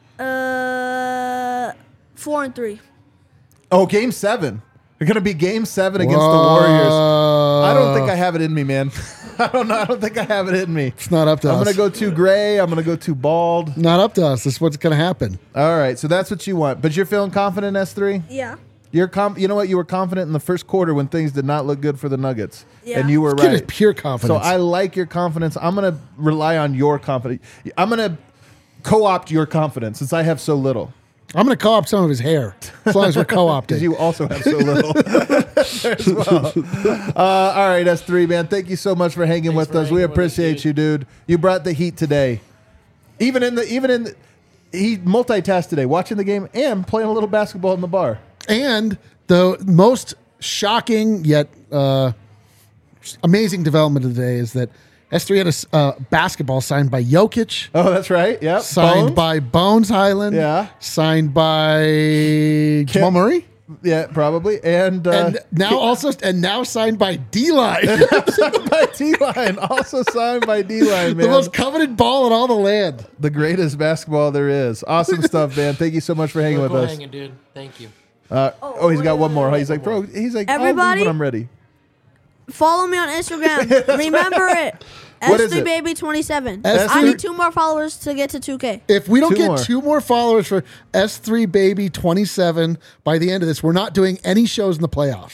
uh, four and three. Oh, game seven. They're going to be game seven against the Warriors. I don't think I have it in me, man. I don't know. I don't think I have it in me. It's not up to I'm us. going to go too gray. I'm going to go too bald. Not up to us. This is what's going to happen. All right. So that's what you want. But you're feeling confident, S three? Yeah. You're com- You know what? You were confident in the first quarter when things did not look good for the Nuggets. Yeah. And you were This kid is right. pure So confidence. I like your confidence. I'm going to rely on your confidence. I'm going to co-opt your confidence since I have so little. I'm going to co-op some of his hair as long as we're co-opting. Because you also have so little there as well. Uh, all right, S three, man. Thank you so much for hanging with for us. We hanging with us, appreciate dude. you, dude. You brought the heat today. Even in the even in the, he multitasked today, watching the game and playing a little basketball in the bar. And the most shocking yet uh, amazing development of the day is that S three had a s- uh, basketball signed by Jokic, Oh, that's right. Yep. signed Bones? by Bones Highland, Yeah. signed by Jamal Murray, Yeah, probably. And, uh, and now also and now signed by D-Line, by D-Line. Also signed by D-Line, the man. most coveted ball in all the land. The greatest basketball there is. Awesome stuff, man. Thank you so much for hanging with us. hanging, dude. Thank you. Uh, oh, he's got wait, one wait, more. wait, He's like, bro, he's like, I'll Everybody? leave when I'm ready. Follow me on Instagram. Remember it. What is S three it? baby twenty-seven. S I three need two more followers to get to two K. If we don't Two get more. two more followers for S three Baby twenty-seven by the end of this, we're not doing any shows in the playoffs.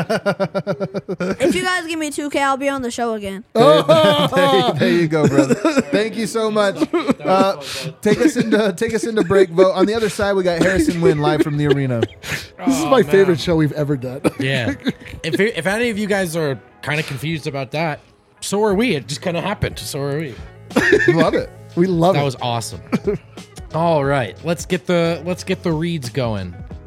If you guys give me two K, I'll be on the show again. there, there you go, brother. Thank you so much. Uh, take us into take us into break vote. On the other side, we got Harrison Wynn live from the arena. This is my favorite show we've ever done. Yeah. if if any of you guys are kind of confused about that, so are we. It just kind of happened. So are we. Love it. We love That it. was awesome. All right, let's get the let's get the reads going.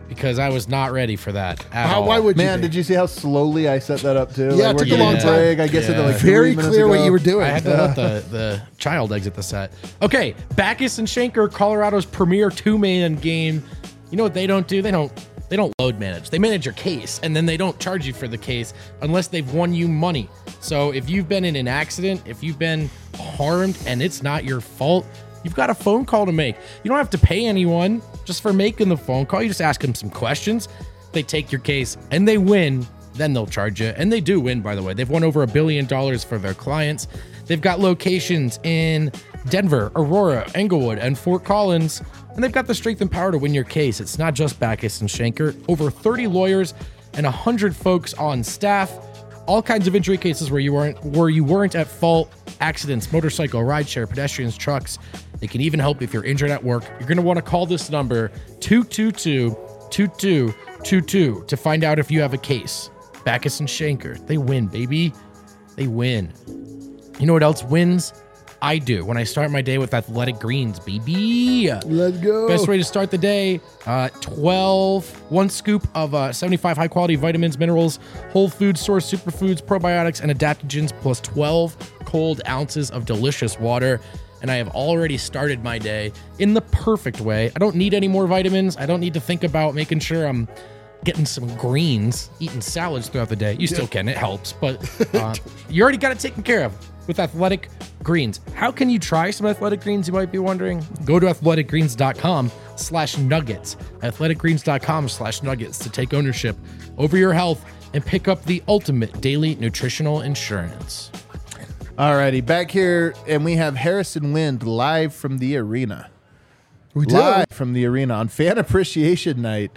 because I was not ready for that at How, all. why would you? Man, be? did you see how slowly I set that up too? Yeah, it we're took a getting long a time. break. I guess Yeah. it like Very three minutes clear what ago. you were doing. I had to let the, the child exit the set. Okay, Backus and Schenker, Colorado's premier two-man game. You know what they don't do? They don't they don't load manage. They manage your case, and then they don't charge you for the case unless they've won you money. So if you've been in an accident, if you've been harmed, and it's not your fault, you've got a phone call to make. You don't have to pay anyone just for making the phone call. You just ask them some questions. They take your case, and they win. Then they'll charge you. And they do win, by the way. They've won over a billion dollars for their clients. They've got locations in Denver, Aurora, Englewood, and Fort Collins. And they've got the strength and power to win your case. It's not just Backus and Schenker. Over thirty lawyers and one hundred folks on staff. All kinds of injury cases where you weren't where you weren't at fault. Accidents, motorcycle, rideshare, pedestrians, trucks. They can even help if you're injured at work. You're going to want to call this number, two two two, two two two two, to find out if you have a case. Backus and Schenker, they win, baby. They win. You know what else wins? I do. When I start my day with Athletic Greens, baby. Let's go. Best way to start the day, uh, twelve, one scoop of uh, seventy-five high-quality vitamins, minerals, whole food source superfoods, probiotics, and adaptogens, plus twelve cold ounces of delicious water. And I have already started my day in the perfect way. I don't need any more vitamins. I don't need to think about making sure I'm getting some greens, eating salads throughout the day. You still can, it helps, but uh, you already got it taken care of with Athletic Greens. How can you try some Athletic Greens, you might be wondering? Go to athleticgreens.com slash nuggets, athleticgreens.com slash nuggets to take ownership over your health and pick up the ultimate daily nutritional insurance. Alrighty, back here, and we have Harrison Wind live from the arena. We do. Live from the arena on Fan Appreciation Night.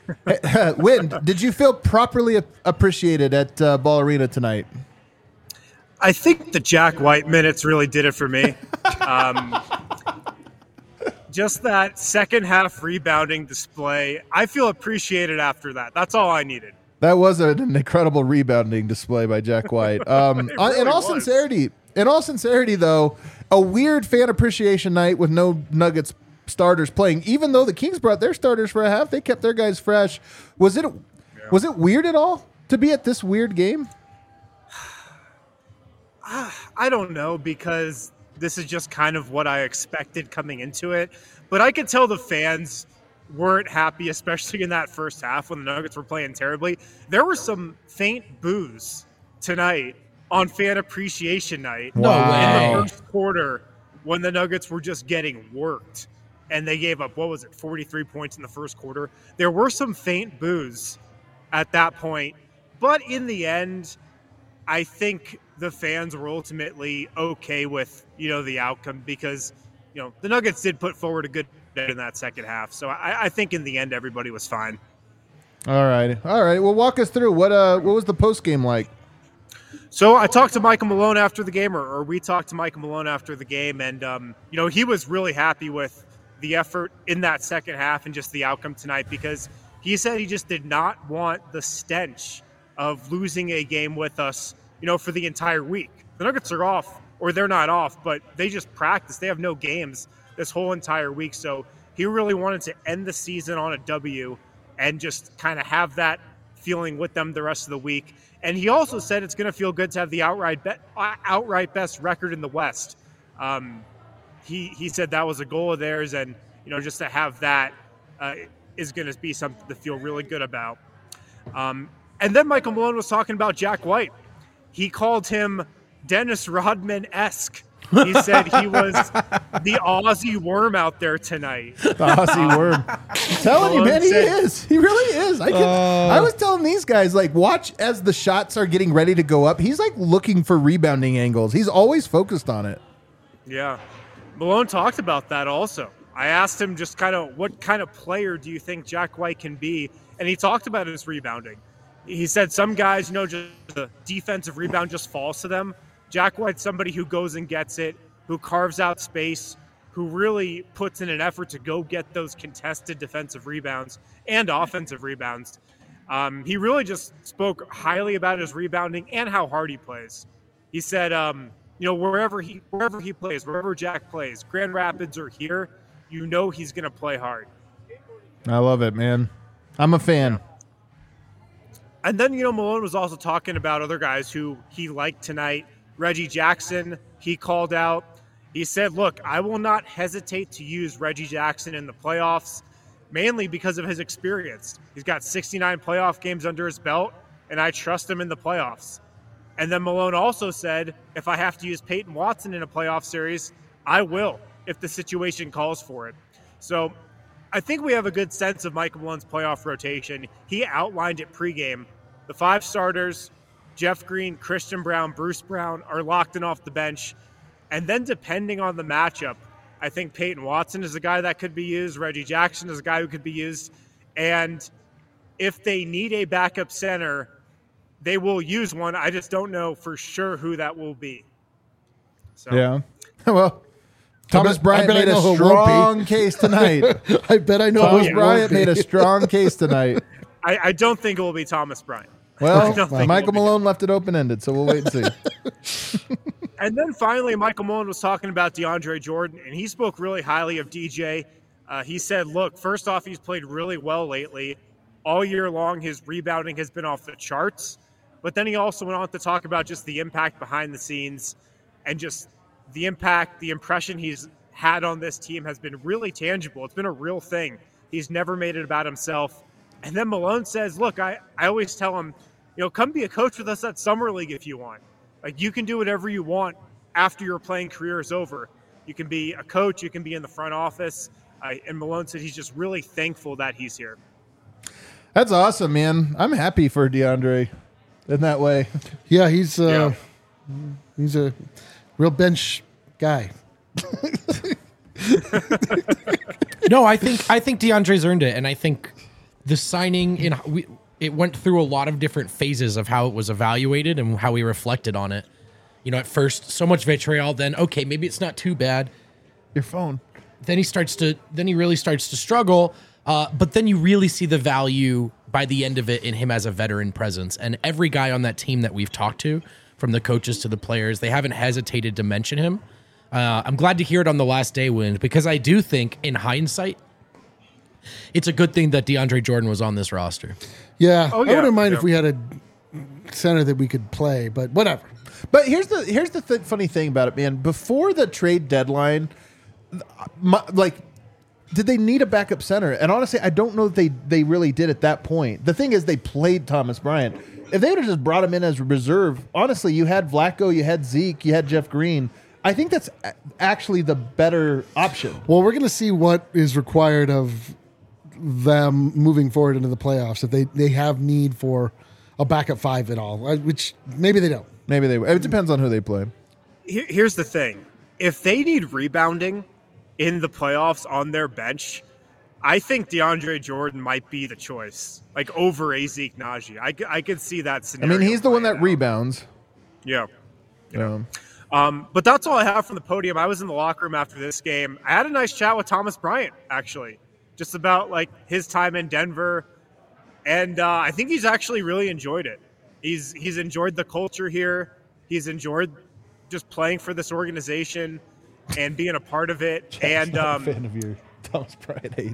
Wind, did you feel properly ap- appreciated at uh, Ball Arena tonight? I think the Jack White minutes really did it for me. Um, just that second half rebounding display. I feel appreciated after that. That's all I needed. That was an incredible rebounding display by Jack White. Um, It on- in really all was. sincerity, in all sincerity, though, a weird Fan Appreciation Night with no Nuggets starters playing. Even though the Kings brought their starters for a half, they kept their guys fresh. Was it yeah. was it weird at all to be at this weird game? I don't know, because this is just kind of what I expected coming into it. But I could tell the fans weren't happy, especially in that first half when the Nuggets were playing terribly. There were some faint boos tonight on Fan Appreciation Night. No In way. the first quarter when the Nuggets were just getting worked. And they gave up, what was it, forty-three points in the first quarter. There were some faint boos at that point. But in the end, I think the fans were ultimately okay with, you know, the outcome, because, you know, the Nuggets did put forward a good bit in that second half. So I, I think in the end, everybody was fine. All right, all right. Well, walk us through what uh what was the post game like? So I talked to Michael Malone after the game, or, or we talked to Michael Malone after the game, and um, you know, he was really happy with the effort in that second half and just the outcome tonight, because he said he just did not want the stench of losing a game with us, you know, for the entire week. The Nuggets are off, or they're not off, but they just practice. They have no games this whole entire week. So he really wanted to end the season on a W and just kind of have that feeling with them the rest of the week. And he also said it's going to feel good to have the outright be- outright best record in the West. Um, he he said that was a goal of theirs, and you know, just to have that uh, is going to be something to feel really good about. Um, and then Michael Malone was talking about Jack White. He called him Dennis Rodman-esque. He said he was the Aussie worm out there tonight. The Aussie worm. I'm telling you, man, he Said- is. He really is. I can, Uh. I was telling these guys, like, watch as the shots are getting ready to go up. He's like looking for rebounding angles. He's always focused on it. Yeah. Malone talked about that also. I asked him just kind of what kind of player do you think Jack White can be? And he talked about his rebounding. He said some guys, you know, just the defensive rebound just falls to them. Jack White's somebody who goes and gets it, who carves out space, who really puts in an effort to go get those contested defensive rebounds and offensive rebounds. Um, he really just spoke highly about his rebounding and how hard he plays. He said, um, you know, wherever he wherever he plays, wherever Jack plays, Grand Rapids or here, you know he's going to play hard. I love it, man. I'm a fan. And then, you know, Malone was also talking about other guys who he liked tonight. Reggie Jackson, he called out. He said, look, I will not hesitate to use Reggie Jackson in the playoffs, mainly because of his experience. He's got sixty-nine playoff games under his belt, and I trust him in the playoffs. And then Malone also said, if I have to use Peyton Watson in a playoff series, I will, if the situation calls for it. So I think we have a good sense of Michael Malone's playoff rotation. He outlined it pregame. The five starters, Jeff Green, Christian Brown, Bruce Brown, are locked in off the bench. And then depending on the matchup, I think Peyton Watson is a guy that could be used. Reggie Jackson is a guy who could be used. And if they need a backup center, they will use one. I just don't know for sure who that will be. So. Yeah. Well, Thomas bet- Bryant I bet I made a know who it won't be. strong case tonight. I bet I know Thomas who it Bryant won't be. made a strong case tonight. I, I don't think it will be Thomas Bryant. Well, I don't think Michael it will be. Malone left it open-ended, so we'll wait and see. And then finally, Michael Malone was talking about DeAndre Jordan, and he spoke really highly of D J. Uh, he said, look, first off, he's played really well lately. All year long, his rebounding has been off the charts. But then he also went on to talk about just the impact behind the scenes and just the impact, the impression he's had on this team has been really tangible. It's been a real thing. He's never made it about himself. And then Malone says, look, I, I always tell him, you know, come be a coach with us at Summer League if you want. Like, you can do whatever you want after your playing career is over. You can be a coach. You can be in the front office. Uh, and Malone said he's just really thankful that he's here. That's awesome, man. I'm happy for DeAndre in that way. Yeah, he's uh, Yeah. he's a real bench guy. No, I think I think DeAndre's earned it, and I think the signing in we, it went through a lot of different phases of how it was evaluated and how we reflected on it. You know, at first, so much vitriol. Then, okay, maybe it's not too bad. Your phone. Then he starts to. Then he really starts to struggle. Uh, but then you really see the value by the end of it in him as a veteran presence. And every guy on that team that we've talked to, from the coaches to the players, they haven't hesitated to mention him. Uh, I'm glad to hear it on the last day win, because I do think, in hindsight, it's a good thing that DeAndre Jordan was on this roster. Yeah, Oh, I yeah, wouldn't mind yeah. if we had a center that we could play, but whatever. But here's the here's the th- funny thing about it, man. Before the trade deadline, my, like, did they need a backup center? And honestly, I don't know that they they really did at that point. The thing is, they played Thomas Bryant. If they would have just brought him in as a reserve, honestly, you had Vlatko, you had Zeke, you had Jeff Green. I think that's a- actually the better option. Well, we're going to see what is required of them moving forward into the playoffs if they, they have need for a backup five at all, uh, which maybe they don't. Maybe they. It depends on who they play. Here- Here's the thing. If they need rebounding in the playoffs on their bench, I think DeAndre Jordan might be the choice, like over a Zeke Naji. I, c- I could see that I scenario. mean, he's the one playing that out. rebounds. Yeah. Um, Um, but that's all I have from the podium. I was in the locker room after this game. I had a nice chat with Thomas Bryant, actually, just about like his time in Denver, and uh, I think he's actually really enjoyed it. He's he's enjoyed the culture here. He's enjoyed just playing for this organization and being a part of it, and um, fan of your Thomas Bryant hate.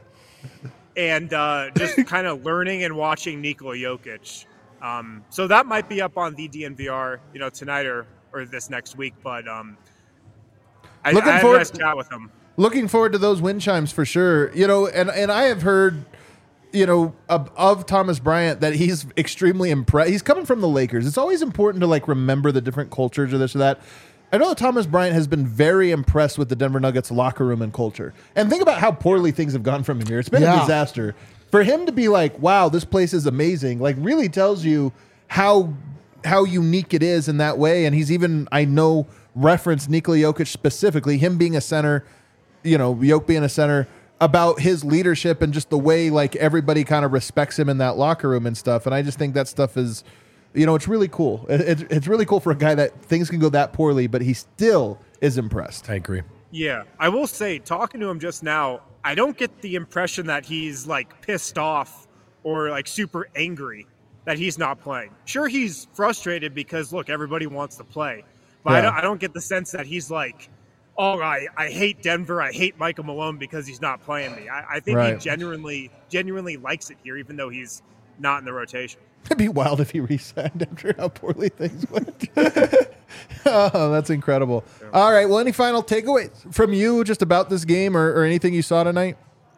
and uh, just kind of learning and watching Nikola Jokic. Um, so that might be up on the D N V R, you know, tonight or, or this next week. But um, I, Looking I had a forward- nice chat with him. Looking forward to those wind chimes for sure. You know, and, and I have heard, you know, of, of Thomas Bryant that he's extremely impressed. He's coming from the Lakers. It's always important to like remember the different cultures or this or that. I know that Thomas Bryant has been very impressed with the Denver Nuggets locker room and culture. And think about how poorly things have gone from him here. It's been Yeah. a disaster. For him to be like, wow, this place is amazing, like really tells you how how unique it is in that way. And he's even, I know, referenced Nikola Jokic specifically, him being a center, you know, Jokic being a center, about his leadership and just the way like everybody kind of respects him in that locker room and stuff. And I just think that stuff is, you know, it's really cool. It, it, it's really cool for a guy that things can go that poorly, but he still is impressed. I agree. Yeah, I will say, talking to him just now, I don't get the impression that he's like pissed off or like super angry that he's not playing. Sure, he's frustrated because look, everybody wants to play, but I, Yeah. don't, I don't get the sense that he's like oh, I, I hate Denver. I hate Michael Malone because he's not playing me. I, I think Right. he genuinely, genuinely likes it here, even though he's not in the rotation. It'd be wild if he re-signed after how poorly things went. Oh, that's incredible. All right. Well, any final takeaways from you just about this game or, or anything you saw tonight?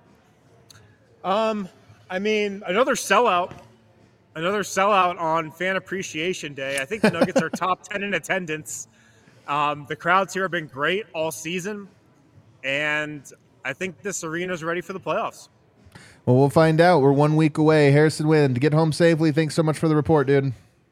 Um, I mean, another sellout. Another sellout on Fan Appreciation Day. I think the Nuggets are top ten in attendance. Um, the crowds here have been great all season, and I think this arena is ready for the playoffs. Well, we'll find out. We're one week away. Harrison Wind, get home safely. Thanks so much for the report, dude.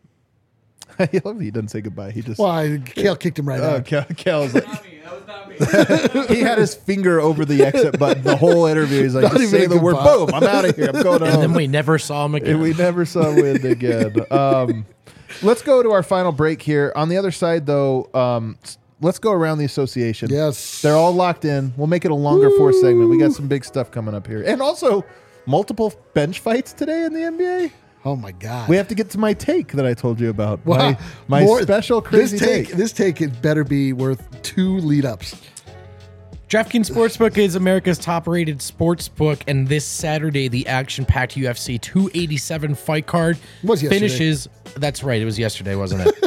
I love that he doesn't say goodbye. He just Well, I, Kale kicked him right oh, out. Kel, Kel's like, Not me. That was not me. he had his finger over the exit button the whole interview. He's like, Not just even say a the word, goodbye. boom, I'm out of here. I'm going home. And then we never saw him again. And we never saw Wind again. Um, let's go to our final break here. On the other side, though, um, s- let's go around the association. Yes. They're all locked in. We'll make it a longer fourth segment. We got some big stuff coming up here. And also, multiple bench fights today in the N B A. Oh my God. We have to get to my take that I told you about. Wow. My, my More- special crazy this take, take. This take had better be worth two lead ups. DraftKings Sportsbook is America's top-rated sportsbook, and this Saturday, the action-packed U F C two eighty-seven fight card Was yesterday. finishes. That's right, it was yesterday, wasn't it?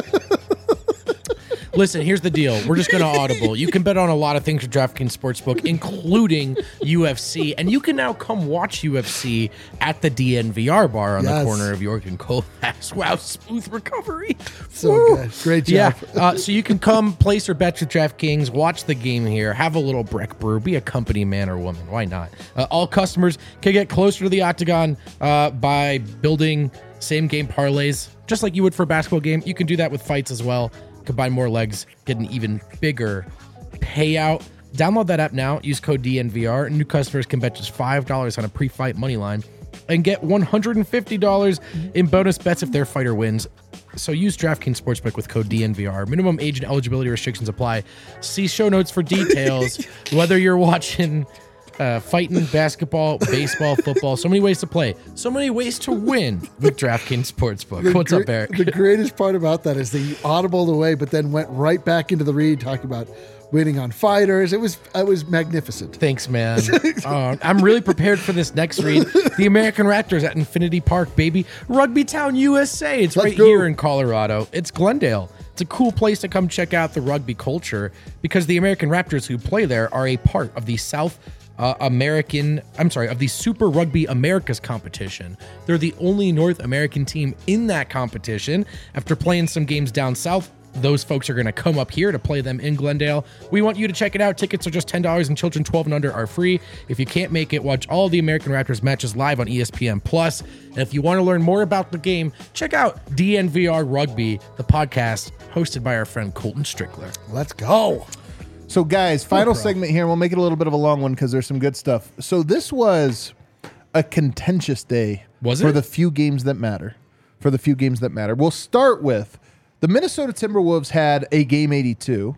Listen, here's the deal. We're just going to audible. You can bet on a lot of things with DraftKings Sportsbook, including U F C, and you can now come watch U F C at the D N V R bar on Yes. the corner of York and Colfax. Wow, smooth recovery. So Woo. good. Great job. Yeah, uh, so you can come place your bets with DraftKings, watch the game here, have a little Breck brew, be a company man or woman. Why not? Uh, all customers can get closer to the octagon uh, by building same game parlays, just like you would for a basketball game. You can do that with fights as well. Combine more legs, get an even bigger payout. Download that app now. Use code D N V R. And new customers can bet just five dollars on a pre-fight money line and get one hundred fifty dollars in bonus bets if their fighter wins. So use DraftKings Sportsbook with code D N V R. Minimum age and eligibility restrictions apply. See show notes for details. Whether you're watching uh, fighting, basketball, baseball, football, so many ways to play, so many ways to win with DraftKings Sportsbook. The What's gre- up, Eric? The greatest part about that is they audibled away, but then went right back into the read talking about winning on fighters. It was it was magnificent. Thanks, man. uh, I'm really prepared for this next read. The American Raptors at Infinity Park, baby. Rugby Town, U S A. It's Let's right go. here in Colorado. It's Glendale. It's a cool place to come check out the rugby culture because the American Raptors who play there are a part of the South uh, American, I'm sorry, of the Super Rugby Americas competition. They're the only North American team in that competition. After playing some games down south, those folks are going to come up here to play them in Glendale. We want you to check it out. Tickets are just ten dollars and children twelve and under are free. If you can't make it, watch all the American Raptors matches live on E S P N Plus. And if you want to learn more about the game, check out D N V R Rugby, the podcast hosted by our friend Colton Strickler. Let's go. So, guys, final bro. segment here. We'll make it a little bit of a long one because there's some good stuff. So, this was a contentious day Was for it? the few games that matter. For the few games that matter. We'll start with the Minnesota Timberwolves had a game eighty-two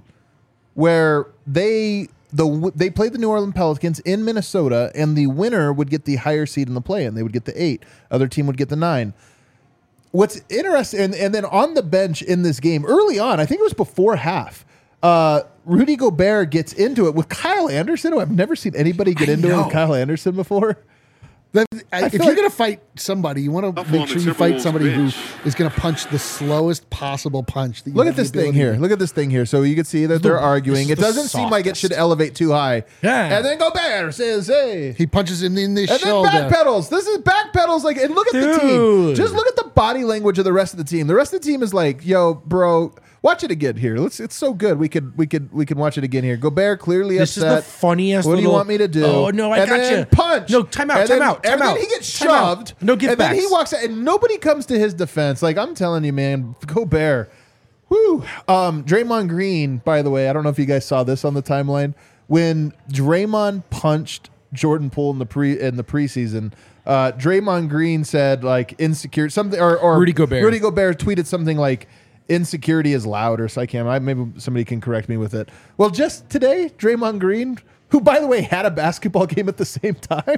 where they the they played the New Orleans Pelicans in Minnesota, and the winner would get the higher seed in the play-in. They would get the eight. Other team would get the nine. What's interesting, and, and then on the bench in this game, early on, I think it was before half, uh, Rudy Gobert gets into it with Kyle Anderson, who I've never seen anybody get I into it know. with Kyle Anderson before. That- I- if feel you're like- going to fight somebody, you want to Up make on sure the you fight Timberwolves somebody who bench. is going to punch the slowest possible punch. That you Look have at the this thing ability here. to- Look at this thing here. So you can see that they're arguing. is It the doesn't seem like it should softest. elevate too high. Yeah. And then Gobert says, hey. He punches him in the And then shoulder. backpedals. This is backpedals. Like, and look at the team. Dude. Just look at the body language of the rest of the team. The rest of the team is like, yo, bro, watch it again here. Let's. It's so good. We could. We could. We can watch it again here. Gobert clearly This is upset. the funniest What do you little- want me to do? Oh, no, I and got then you. Punch. No, time out, And time then- out, time and out. then he gets Time out. shoved. No give And then he backs. walks out, and nobody comes to his defense. Like I'm telling you, man, Gobert. Whoo. Um, Draymond Green, by the way, I don't know if you guys saw this on the timeline. When Draymond punched Jordan Poole in the pre in the preseason, uh, Draymond Green said like insecure something or, or Rudy Gobert. Rudy Gobert tweeted something like insecurity is loud or so I can't I, maybe somebody can correct me with it. Well, just today, Draymond Green, who by the way had a basketball game at the same time,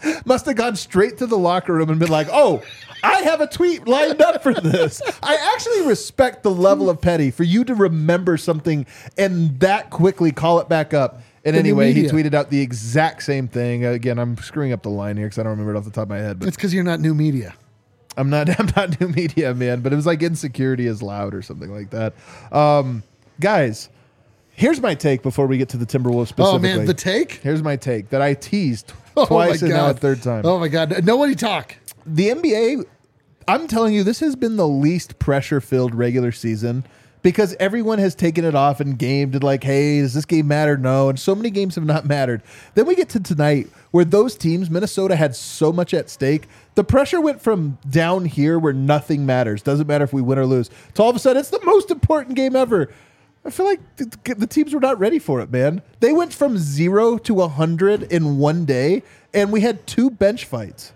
must have gone straight to the locker room and been like, oh, I have a tweet lined up for this. I actually respect the level of petty for you to remember something and that quickly call it back up. And The new anyway, he media. tweeted out the exact same thing. Again, I'm screwing up the line here because I don't remember it off the top of my head. But It's because you're not new media. I'm not I'm not new media, man. But it was like insecurity is loud or something like that. Um, guys, here's my take before we get to the Timberwolves specifically. Oh, man, the take? Here's my take that I teased Oh, twice my and now a God. third time. Oh, my God. Nobody talk. The N B A, I'm telling you, this has been the least pressure-filled regular season because everyone has taken it off and gamed and like, hey, does this game matter? No. And so many games have not mattered. Then we get to tonight where those teams, Minnesota had so much at stake. The pressure went from down here where nothing matters, doesn't matter if we win or lose, to all of a sudden it's the most important game ever. I feel like the, the teams were not ready for it, man. They went from zero to one hundred in one day, and we had two bench fights.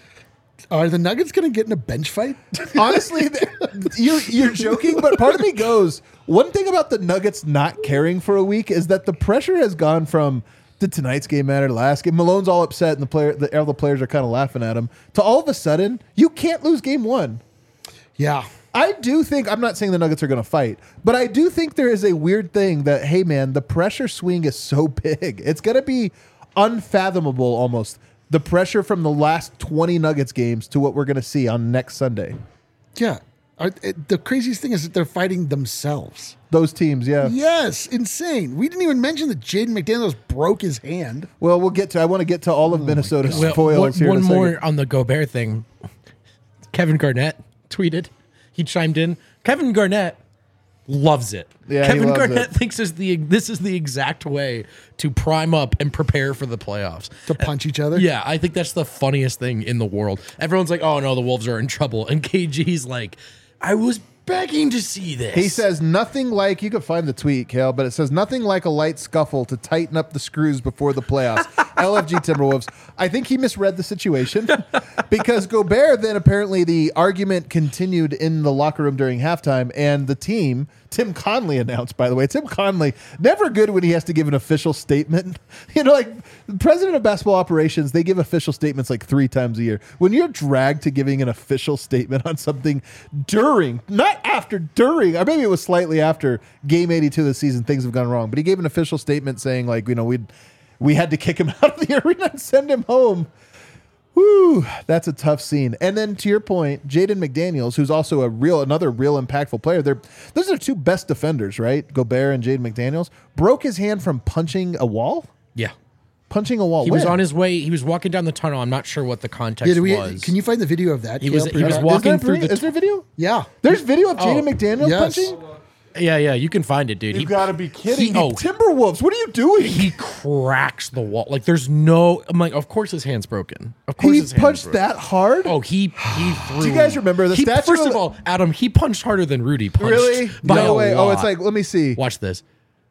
Are the Nuggets going to get in a bench fight? Honestly, th- you're, you're joking, but part of me goes, one thing about the Nuggets not caring for a week is that the pressure has gone from did tonight's game matter, the last game? Malone's all upset and the player, the, all the players are kind of laughing at him, to all of a sudden, you can't lose game one. Yeah. I do think, I'm not saying the Nuggets are going to fight, but I do think there is a weird thing that, hey, man, the pressure swing is so big. It's going to be unfathomable almost. The pressure from the last twenty Nuggets games to what we're going to see on next Sunday. Yeah. Are, it, the craziest thing is that they're fighting themselves. Those teams, yeah. Yes, insane. We didn't even mention that Jaden McDaniels broke his hand. Well, we'll get to, I want to get to all of Minnesota's Well, foils one here in one a second. more on the Gobert thing. Kevin Garnett tweeted. He chimed in. Kevin Garnett loves it. Yeah, he Kevin loves Garnett it. thinks is the this is the exact way to prime up and prepare for the playoffs. To punch each other? Yeah, I think that's the funniest thing in the world. Everyone's like, "Oh no, the Wolves are in trouble," and K G's like, "I was begging to see this." He says nothing like, you can find the tweet, Kale, but it says nothing like a light scuffle to tighten up the screws before the playoffs. L F G Timberwolves. I think he misread the situation because Gobert, then apparently the argument continued in the locker room during halftime, and the team, Tim Conley announced, by the way, Tim Conley, never good when he has to give an official statement. You know, like the president of basketball operations, they give official statements like three times a year. When you're dragged to giving an official statement on something during, not after, during, or maybe it was slightly after game eighty-two of the season, things have gone wrong, but he gave an official statement saying like, you know, we'd, we had to kick him out of the arena and send him home. Woo, that's a tough scene. And then to your point, Jaden McDaniels, who's also a real, another real impactful player. They're, those are two best defenders, right? Gobert and Jaden McDaniels. Broke his hand from punching a wall? yeah. Punching a wall. He was When? on his way. He was walking down the tunnel. I'm not sure what the context Yeah, do we, was. can you find the video of that? He was- Kale, he was perhaps? walking is there, through pre- the is there video? Yeah. There's video of Jaden Oh, McDaniels yes. punching? Yeah, yeah, you can find it, dude. You He- gotta be kidding he- me. oh, Timberwolves, what are you doing? he cracks the wall. Like there's no. I'm like, of course his hand's broken. Of course He his hand's punched broken. that hard? Oh, he he threw. Do you guys remember the he, statue First of- of all, Adam, he punched harder than Rudy punched. Really? By No a way. Oh, it's lot. like, let me see. Watch this.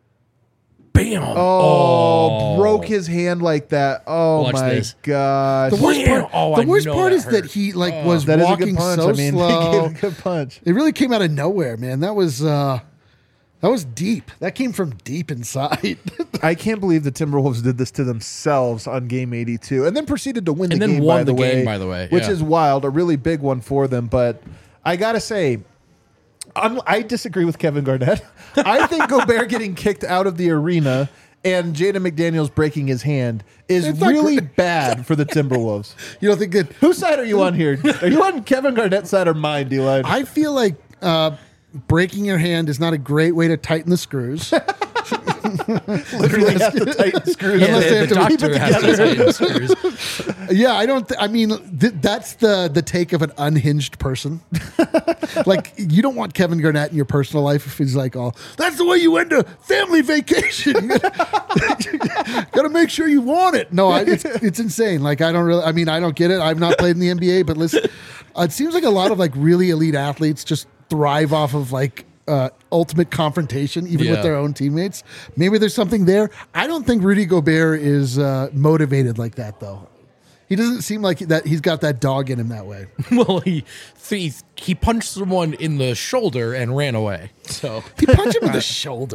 Bam. Oh, broke his hand like that. Oh Watch my this. gosh. The worst Wham! part, Oh, the I worst know part that is that hurt. he like was That is a walking good punch. so I mean, he slow. gave a good punch. It really came out of nowhere, man. That was uh that was deep. That came from deep inside. I can't believe the Timberwolves did this to themselves on game eighty-two and then proceeded to win And the then game, won by the the way, game, by the way, which yeah. is wild, a really big one for them. But I got to say, I'm, I disagree with Kevin Garnett. I think Gobert getting kicked out of the arena and Jaden McDaniels breaking his hand is It's not really great. bad for the Timberwolves. You don't think that Whose side are you on here? Are you on Kevin Garnett's side or mine, D-Line? I feel like uh breaking your hand is not a great way to tighten the screws. Literally have to tighten screws. Unless the, they have the to keep doctor it has to together. tighten the screws. Yeah, I don't. Th- I mean, th- that's the the take of an unhinged person. Like, you don't want Kevin Garnett in your personal life if he's like, "Oh, that's the way you end a family vacation." You gotta, gotta make sure you want it. No, I, it's it's insane. Like, I don't really. I mean, I don't get it. I've not played in the N B A, but listen, uh, it seems like a lot of like really elite athletes just thrive off of like. Uh, ultimate confrontation, even Yeah. with their own teammates. Maybe there's something there. I don't think Rudy Gobert is uh, motivated like that, though. He doesn't seem like that. He's got that dog in him that way. Well, he, he he punched someone in the shoulder and ran away. So He punched him in the shoulder.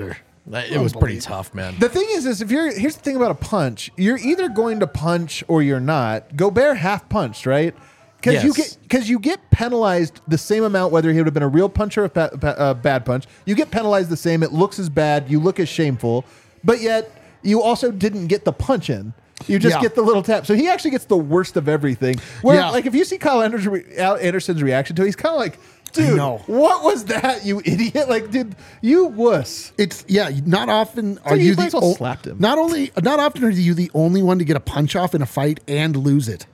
It was pretty tough, man. The thing is, is if you're here's the thing about a punch, you're either going to punch or you're not. Gobert half punched, right? Because you Yes. get because you get penalized the same amount whether he would have been a real punch or a ba- ba- uh, bad punch. You get penalized the same. It looks as bad. You look as shameful, but yet you also didn't get the punch in. You just Yeah. get the little tap. So he actually gets the worst of everything. Where Yeah. like if you see Kyle Anderson, re- Al Anderson's reaction to it, he's kind of like, dude, know. what was that, you idiot? Like, dude, you wuss. It's yeah. Not often are like you you might the as well o- slapped him. Not only not often are you the only one to get a punch off in a fight and lose it.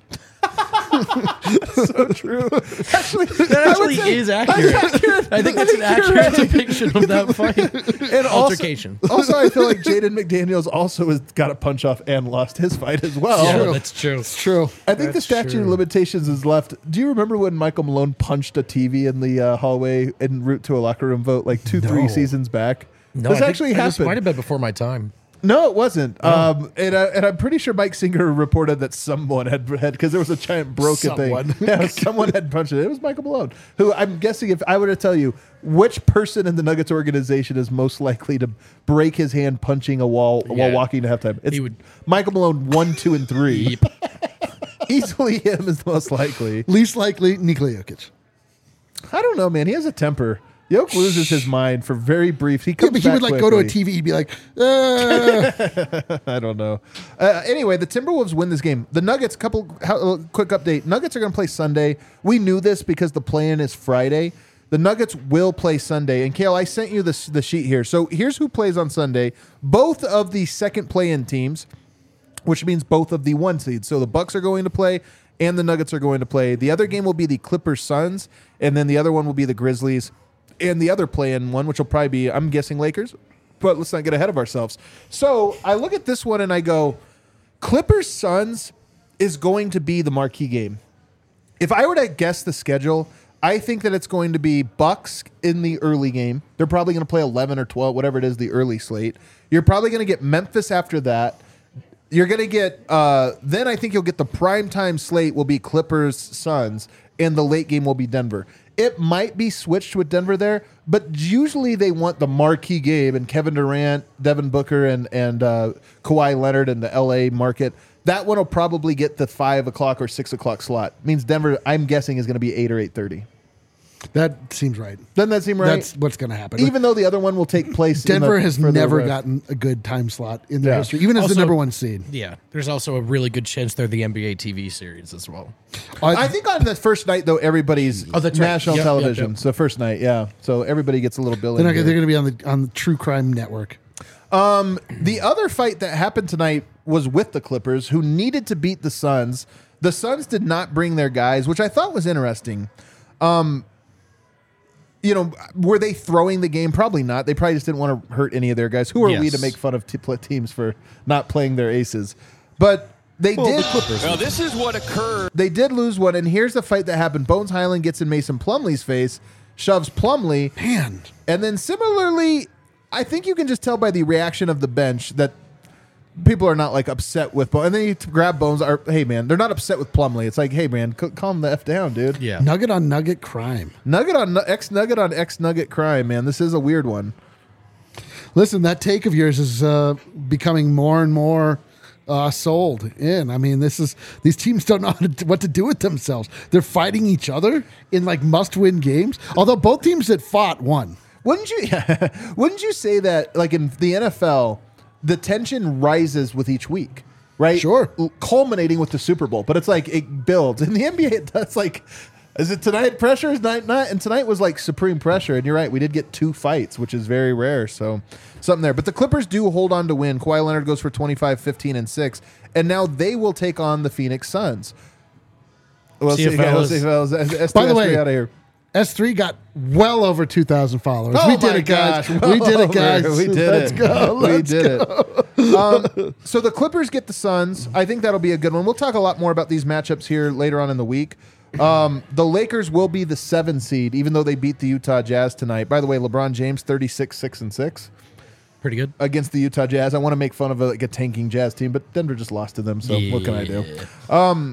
So true. Actually, That actually is accurate. I think that's an accurate depiction of that fight. And also, Altercation. also, I feel like Jaden McDaniels also has got a punch off and lost his fight as well. Yeah, True. that's true. True. I think the That's statute of true. limitations is left. Do you remember when Michael Malone punched a T V in the uh, hallway en route to a locker room vote like two, three No. seasons back? No, this I think actually This happened. might have been before my time. No, it wasn't. Um, and, uh, and I'm pretty sure Mike Singer reported that someone had had because there was a giant broken Someone. thing. Yeah, someone had punched it. It was Michael Malone, who I'm guessing if I were to tell you which person in the Nuggets organization is most likely to break his hand punching a wall while Yeah. walking to halftime, it's He would- Michael Malone one, two, and three. Easily him is the most likely. Least likely, Nikola Jokic. I don't know, man. He has a temper. Yoke loses his mind for very brief. He Yeah, comes but he back would like go to a quickly. T V. He'd be like, uh, I don't know. Uh, anyway, the Timberwolves win this game. The Nuggets, couple how, uh, quick update. Nuggets are going to play Sunday. We knew this because the play-in is Friday. The Nuggets will play Sunday. And Kale, I sent you this the sheet here. So here's who plays on Sunday. Both of the second play-in teams, which means both of the one seeds. So the Bucks are going to play and the Nuggets are going to play. The other game will be the Clippers Suns, and then the other one will be the Grizzlies. And the other play-in one, which will probably be, I'm guessing, Lakers. But let's not get ahead of ourselves. So I look at this one and I go, Clippers Suns is going to be the marquee game. If I were to guess the schedule, I think that it's going to be Bucks in the early game. They're probably going to play eleven or twelve, whatever it is, the early slate. You're probably going to get Memphis after that. You're going to get, uh, then I think you'll get the primetime slate will be Clippers Suns, and the late game will be Denver. It might be switched with Denver there, but usually they want the marquee game and Kevin Durant, Devin Booker, and and uh, Kawhi Leonard in the L A market. That one will probably get the five o'clock or six o'clock slot. Means Denver, I'm guessing, is going to be eight or eight thirty. that seems right. Doesn't that seem right? That's what's going to happen. Even though the other one will take place. in Denver the has further never west. gotten a good time slot in their Yeah. history, even as Also- the number one seed. Yeah, there's also a really good chance they're the N B A T V series as well. I think on the first night though, everybody's Oh, that's right. national Yep, yep, television. yep. So first night, yeah. So everybody gets a little bill. they're, in not, here. they're going to be on the on the True Crime Network. The other fight that happened tonight was with the Clippers, who needed to beat the Suns. The Suns did not bring their guys, which I thought was interesting. Um, you know, were they throwing the game? Probably not. They probably just didn't want to hurt any of their guys. Who are we Yes. to make fun of t- pl- teams for not playing their aces? But they did. Now, this is what occurred. They did lose one, and here's the fight that happened. Bones Highland gets in Mason Plumlee's face, shoves Plumlee, Man, and then similarly, I think you can just tell by the reaction of the bench that people are not like upset with Bones. And then you t- grab Bones. Or, hey man, they're not upset with Plumlee. It's like, hey man, c- calm the f down, dude. Yeah. nugget on nugget crime. Nugget on nu- X Nugget on X Nugget crime, man. This is a weird one. Listen, that take of yours is uh, becoming more and more uh, sold in. I mean, this is these teams don't know how to, what to do with themselves. They're fighting each other in like must-win games. Although both teams that fought won. Wouldn't you? Wouldn't you say that like in the N F L, the tension rises with each week, right? Sure. L- culminating with the Super Bowl, but it's like it builds. In the N B A, that's like, is it tonight pressure? Is night not? And tonight was like supreme pressure. And you're right, we did get two fights, which is very rare. So something there. But the Clippers do hold on to win. Kawhi Leonard goes for twenty-five, fifteen, and six, and now they will take on the Phoenix Suns. Well, See you, fellas. By the way, out of here. S three got well over two thousand followers. Oh we did my it, guys. gosh. we did Well it, guys. over. We did Let's it. go. we Let's did go. it. Um, so the Clippers get the Suns. I think that'll be a good one. We'll talk a lot more about these matchups here later on in the week. Um, the Lakers will be the seven seed, even though they beat the Utah Jazz tonight. By the way, LeBron James, thirty-six, six, and six Pretty good. against the Utah Jazz. I want to make fun of a, like a tanking Jazz team, but Denver just lost to them, so what can I do? Um,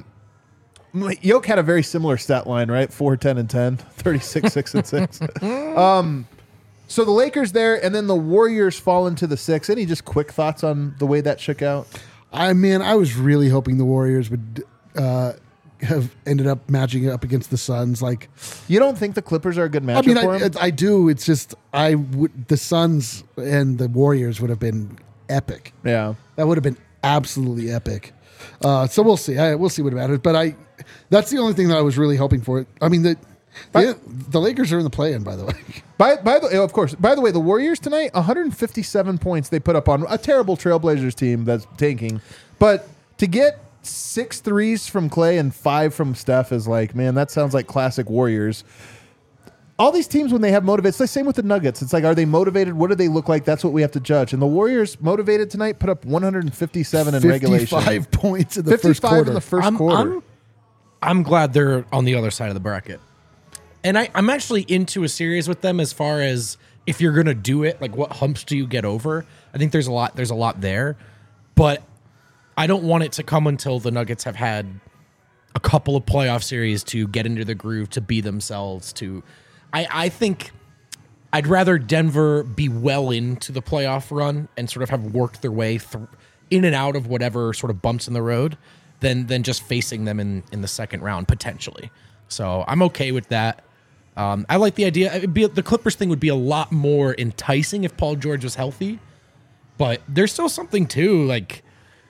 Yoke had a very similar stat line, right? four, ten, and ten, thirty-six, six, and six. Um, So the Lakers there, and then the Warriors fall into the six. Any just quick thoughts on the way that shook out? I mean, I was really hoping the Warriors would uh, have ended up matching up against the Suns. Like, You don't think the Clippers are a good matchup I mean, for I, them? I do. It's just I would the Suns and the Warriors would have been epic. Yeah. That would have been absolutely epic. Uh, so we'll see. I, we'll see what matters. But I, that's the only thing that I was really hoping for. I mean, the the, the Lakers are in the play-in, by the way. By by the of course. By the way, the Warriors tonight, one hundred fifty-seven points they put up on a terrible Trailblazers team that's tanking. But to get six threes from Clay and five from Steph is like, man, that sounds like classic Warriors. All these teams, when they have motivated, it's the same with the Nuggets. It's like, are they motivated? What do they look like? That's what we have to judge. And the Warriors, motivated tonight, put up one hundred fifty-seven in regulation. fifty-five points in the first fifty-five quarter. in the first I'm, quarter. I'm, I'm glad they're on the other side of the bracket. And I, I'm actually into a series with them as far as if you're gonna do it, like what humps do you get over? I think there's a lot there's a lot there. But I don't want it to come until the Nuggets have had a couple of playoff series to get into the groove, to be themselves, to I, I think I'd rather Denver be well into the playoff run and sort of have worked their way through in and out of whatever sort of bumps in the road than than just facing them in, in the second round potentially. So I'm okay with that. Um, I like the idea. It'd be, the Clippers thing would be a lot more enticing if Paul George was healthy, but there's still something too. Like,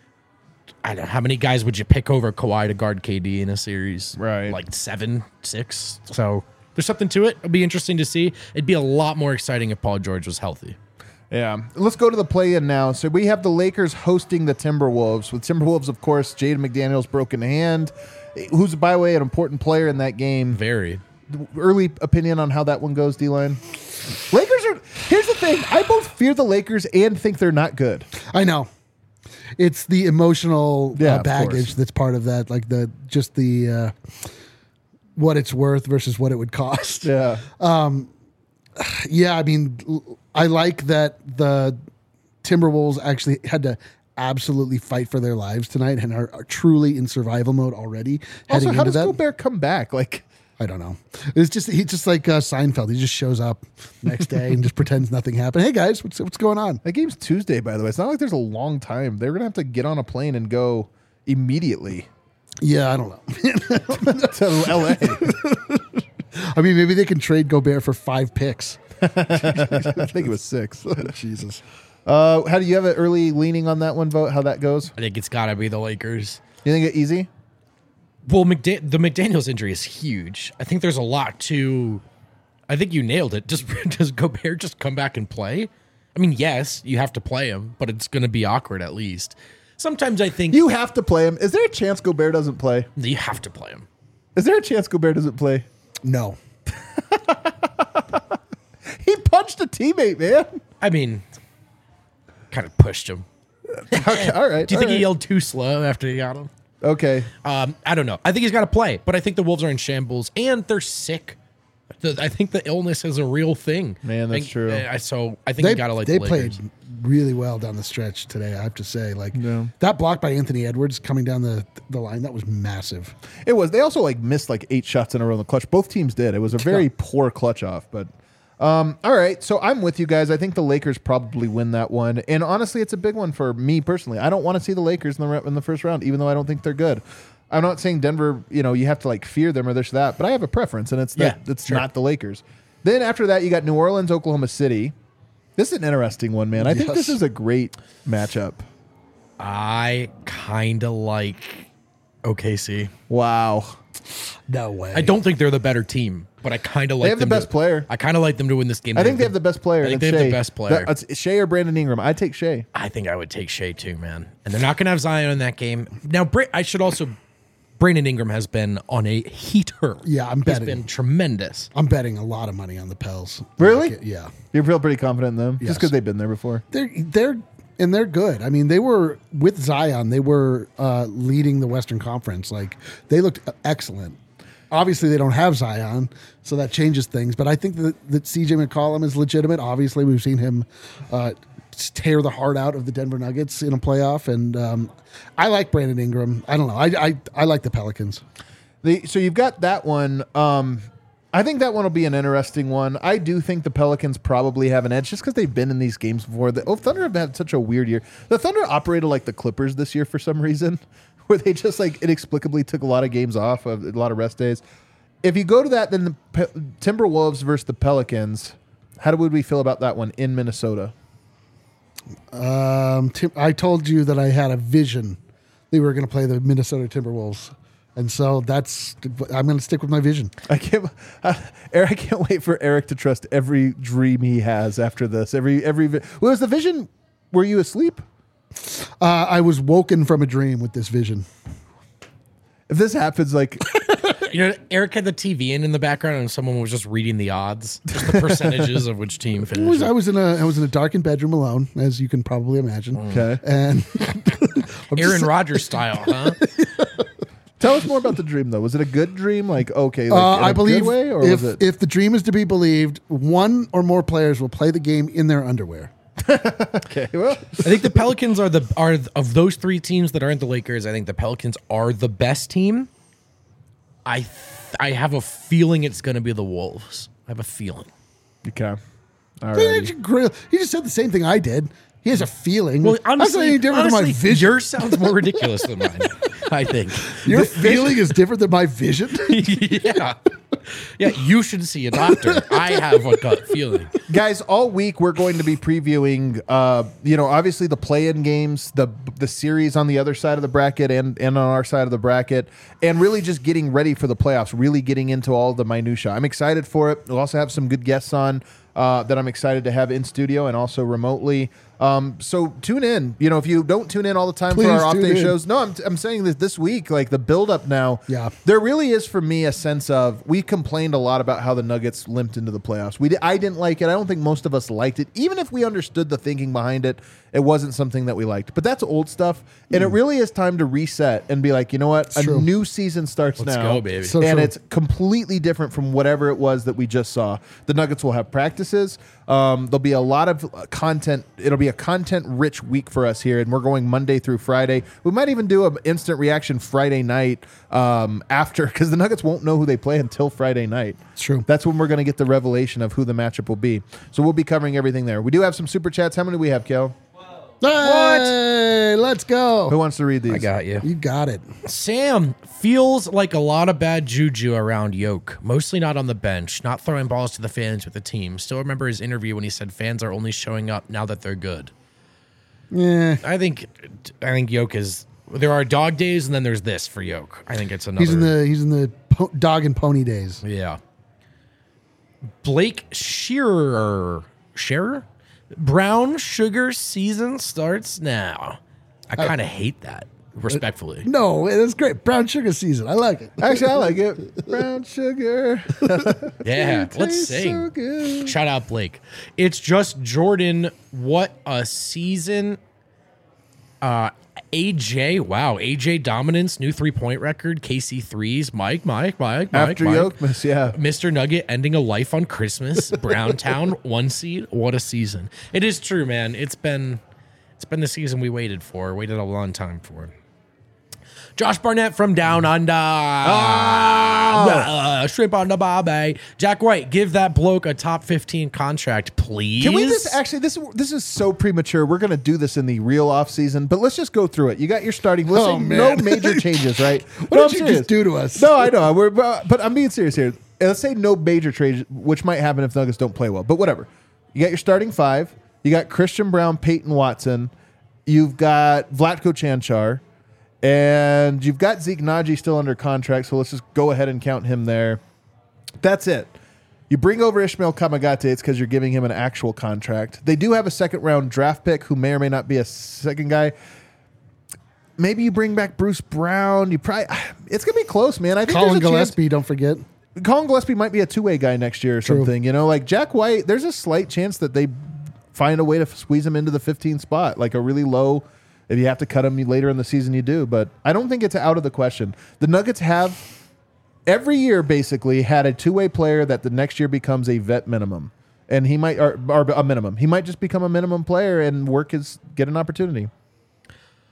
I don't know, how many guys would you pick over Kawhi to guard K D in a series? Right. Like seven, six. So there's something to it. It'll be interesting to see. It'd be a lot more exciting if Paul George was healthy. Yeah. Let's go to the play-in now. So we have the Lakers hosting the Timberwolves. With Timberwolves, of course, Jaden McDaniels broken hand, who's, by the way, an important player in that game. Very. Early opinion on how that one goes, D-Line? Lakers are... Here's the thing. I both fear the Lakers and think they're not good. I know. It's the emotional Yeah, uh, of baggage course. that's part of that, like the just the uh, what it's worth versus what it would cost. Yeah. Yeah, I mean, l- I like that the Timberwolves actually had to absolutely fight for their lives tonight and are, are truly in survival mode already. Also, heading how into does that, Gobert come back? Like... I don't know. It's just he's just like uh, Seinfeld. He just shows up next day and just pretends nothing happened. Hey guys, what's what's going on? That game's Tuesday, by the way. It's not like there's a long time. They're going to have to get on a plane and go immediately Yeah, I don't know. to L A. I mean, maybe they can trade Gobert for five picks. I think it was six. Jesus. Uh, how do you have an early leaning on that one vote? How that goes? I think it's got to be the Lakers. You think it easy? Well, McDa- the McDaniels injury is huge. I think there's a lot to. I think you nailed it. Does does Gobert just come back and play? I mean, yes, you have to play him, but it's going to be awkward at least. Sometimes I think You have to play him. Is there a chance Gobert doesn't play? you have to play him. Is there a chance Gobert doesn't play? No. He punched a teammate, man. I mean, kind of pushed him. Okay, all right. Do you all think he right. yelled too slow after he got him? Okay. Um, I don't know. I think he's got to play, but I think the Wolves are in shambles and they're sick. The, I think the illness is a real thing. Man, that's I, true. I, so I think They, you got to like they the Lakers. played really well down the stretch today, I have to say. Like Yeah. that block by Anthony Edwards coming down the the line, that was massive. It was. They also like missed like eight shots in a row in the clutch. Both teams did. It was a very poor clutch off. But um, all right. So I'm with you guys. I think the Lakers probably win that one. And honestly, it's a big one for me personally. I don't want to see the Lakers in the in the first round, even though I don't think they're good. I'm not saying Denver. You know, you have to like fear them or this or that. But I have a preference, and it's that Yeah, it's sure. not the Lakers. Then after that, you got New Orleans, Oklahoma City. This is an interesting one, man. I think Yes. this is a great matchup. I kind of like O K C. Wow. No way. I don't think they're the better team, but I kind of like They have the them best to, player. I kind of like them to win this game. I think they have the best player. I think and they it's have the Shea. best player. That- it's Shea or Brandon Ingram. I take Shea. I think I would take Shea too, man. And they're not going to have Zion in that game. Now, Bra- I should also. Brandon Ingram has been on a heater. Yeah, I'm He's betting. been tremendous. I'm betting a lot of money on the Pels. Really? Like it- yeah. You feel pretty confident in them, Yes. just because they've been there before. They're they're and they're good. I mean, they were with Zion. They were uh, leading the Western Conference. Like they looked excellent. Obviously, they don't have Zion, so that changes things. But I think that, that C J McCollum is legitimate. Obviously, we've seen him uh, tear the heart out of the Denver Nuggets in a playoff, and um, I like Brandon Ingram. I don't know. I I, I like the Pelicans. The, so you've got that one. Um, I think that one will be an interesting one. I do think the Pelicans probably have an edge just because they've been in these games before. The oh, Thunder have had such a weird year. The Thunder operated like the Clippers this year for some reason, where they just like inexplicably took a lot of games off, of a lot of rest days. If you go to that, then the Pe- Timberwolves versus the Pelicans, how would we feel about that one in Minnesota? Um, Tim, I told you that I had a vision they were going to play the Minnesota Timberwolves. And so that's, I'm going to stick with my vision. I can't, uh, Eric, I can't wait for Eric to trust every dream he has after this. Every, every, vi- what was the vision? Were you asleep? Uh, I was woken from a dream with this vision. If this happens, like, You know, Eric had the T V in in the background, and someone was just reading the odds, just the percentages of which team I was, finished. I was in a I was in a darkened bedroom alone, as you can probably imagine. okay. And I'm Aaron just- Rodgers style, huh? Tell us more about the dream, though. Was it a good dream? Like, okay, like uh, in a I believe good way, or if was it? if the dream is to be believed, one or more players will play the game in their underwear. Okay, well, I think the Pelicans are the are of those three teams that aren't the Lakers. I think the Pelicans are the best team. I th- I have a feeling it's going to be the Wolves. I have a feeling. okay. All He right. just said the same thing I did. He has a feeling. Well, That's not honestly, any different honestly than my vision. yours sounds more ridiculous than mine. I think. Your feeling is different than my vision. yeah, yeah. You should see a doctor. I have a gut feeling. Guys, all week we're going to be previewing, uh, you know, obviously the play-in games, the the series on the other side of the bracket and, and on our side of the bracket, and really just getting ready for the playoffs, really getting into all the minutia. I'm excited for it. We'll also have some good guests on uh, that I'm excited to have in studio and also remotely. Um, so tune in. You know, if you don't tune in all the time Please for our tune off-day in. shows, no, I'm, I'm saying that this week, like the build-up now, Yeah. there really is for me a sense of, we complained a lot about how the Nuggets limped into the playoffs. We did, I didn't like it. I don't think most of us liked it. Even if we understood the thinking behind it, it wasn't something that we liked. But that's old stuff, and it really is time to reset and be like, you know what? It's a true. new season starts Let's now. go, baby. So and true. it's completely different from whatever it was that we just saw. The Nuggets will have practices. Um, there'll be a lot of uh, content. It'll be a content-rich week for us here, and we're going Monday through Friday. We might even do an instant reaction Friday night um, after, because the Nuggets won't know who they play until Friday night. It's true. That's when we're going to get the revelation of who the matchup will be. So we'll be covering everything there. We do have some super chats. How many do we have, Kel? Hey, let's go. Who wants to read these? I got you. You got it. Sam feels like a lot of bad juju around Yoke, mostly not on the bench, not throwing balls to the fans with the team. Still remember his interview when he said fans are only showing up now that they're good. Yeah. I think I think Yoke is there are dog days and then there's this for Yoke. I think it's another He's in the he's in the po- dog and pony days. Yeah. Blake Shearer Shearer? Brown sugar season starts now. I kind of hate that, respectfully. No, it's great. Brown sugar season. I like it. Actually, I like it. Brown sugar. Yeah, let's Tastes sing. so good. Shout out Blake. It's just Jordan. What a season. Uh, A J, wow. A J dominance, new three point record. K C threes. Mike, Mike, Mike, Mike. After Mike. Yokemas, yeah. Mister Nugget ending a life on Christmas. Browntown, one seed. What a season. It is true, man. It's been it's been the season we waited for, waited a long time for. Josh Barnett from Down Under. Ah, shrimp on the barbie. Jack White, give that bloke a top fifteen contract, please. Can we just actually this this is so premature. We're gonna do this in the real off season, but let's just go through it. You got your starting. Let's Oh, say no man. major changes, right? What No, I'm did you serious. just do to us? No, I know. We're but but I'm being serious here. Let's say no major trades, which might happen if Nuggets don't play well. But whatever. You got your starting five. You got Christian Brown, Peyton Watson. You've got Vlatko Chanchar. And you've got Zeke Naji still under contract, so let's just go ahead and count him there. That's it. You bring over Ishmael Kamagate, it's because you're giving him an actual contract. They do have a second round draft pick who may or may not be a second guy. Maybe you bring back Bruce Brown. You probably it's gonna be close, man. I think Colin there's a chance- Gillespie, don't forget. Colin Gillespie might be a two-way guy next year or True. something. You know, like Jack White, there's a slight chance that they find a way to squeeze him into the fifteen spot, like a really low. If you have to cut him later in the season, you do. But I don't think it's out of the question. The Nuggets have every year basically had a two-way player that the next year becomes a vet minimum, and he might or, or a minimum. He might just become a minimum player and work his get an opportunity.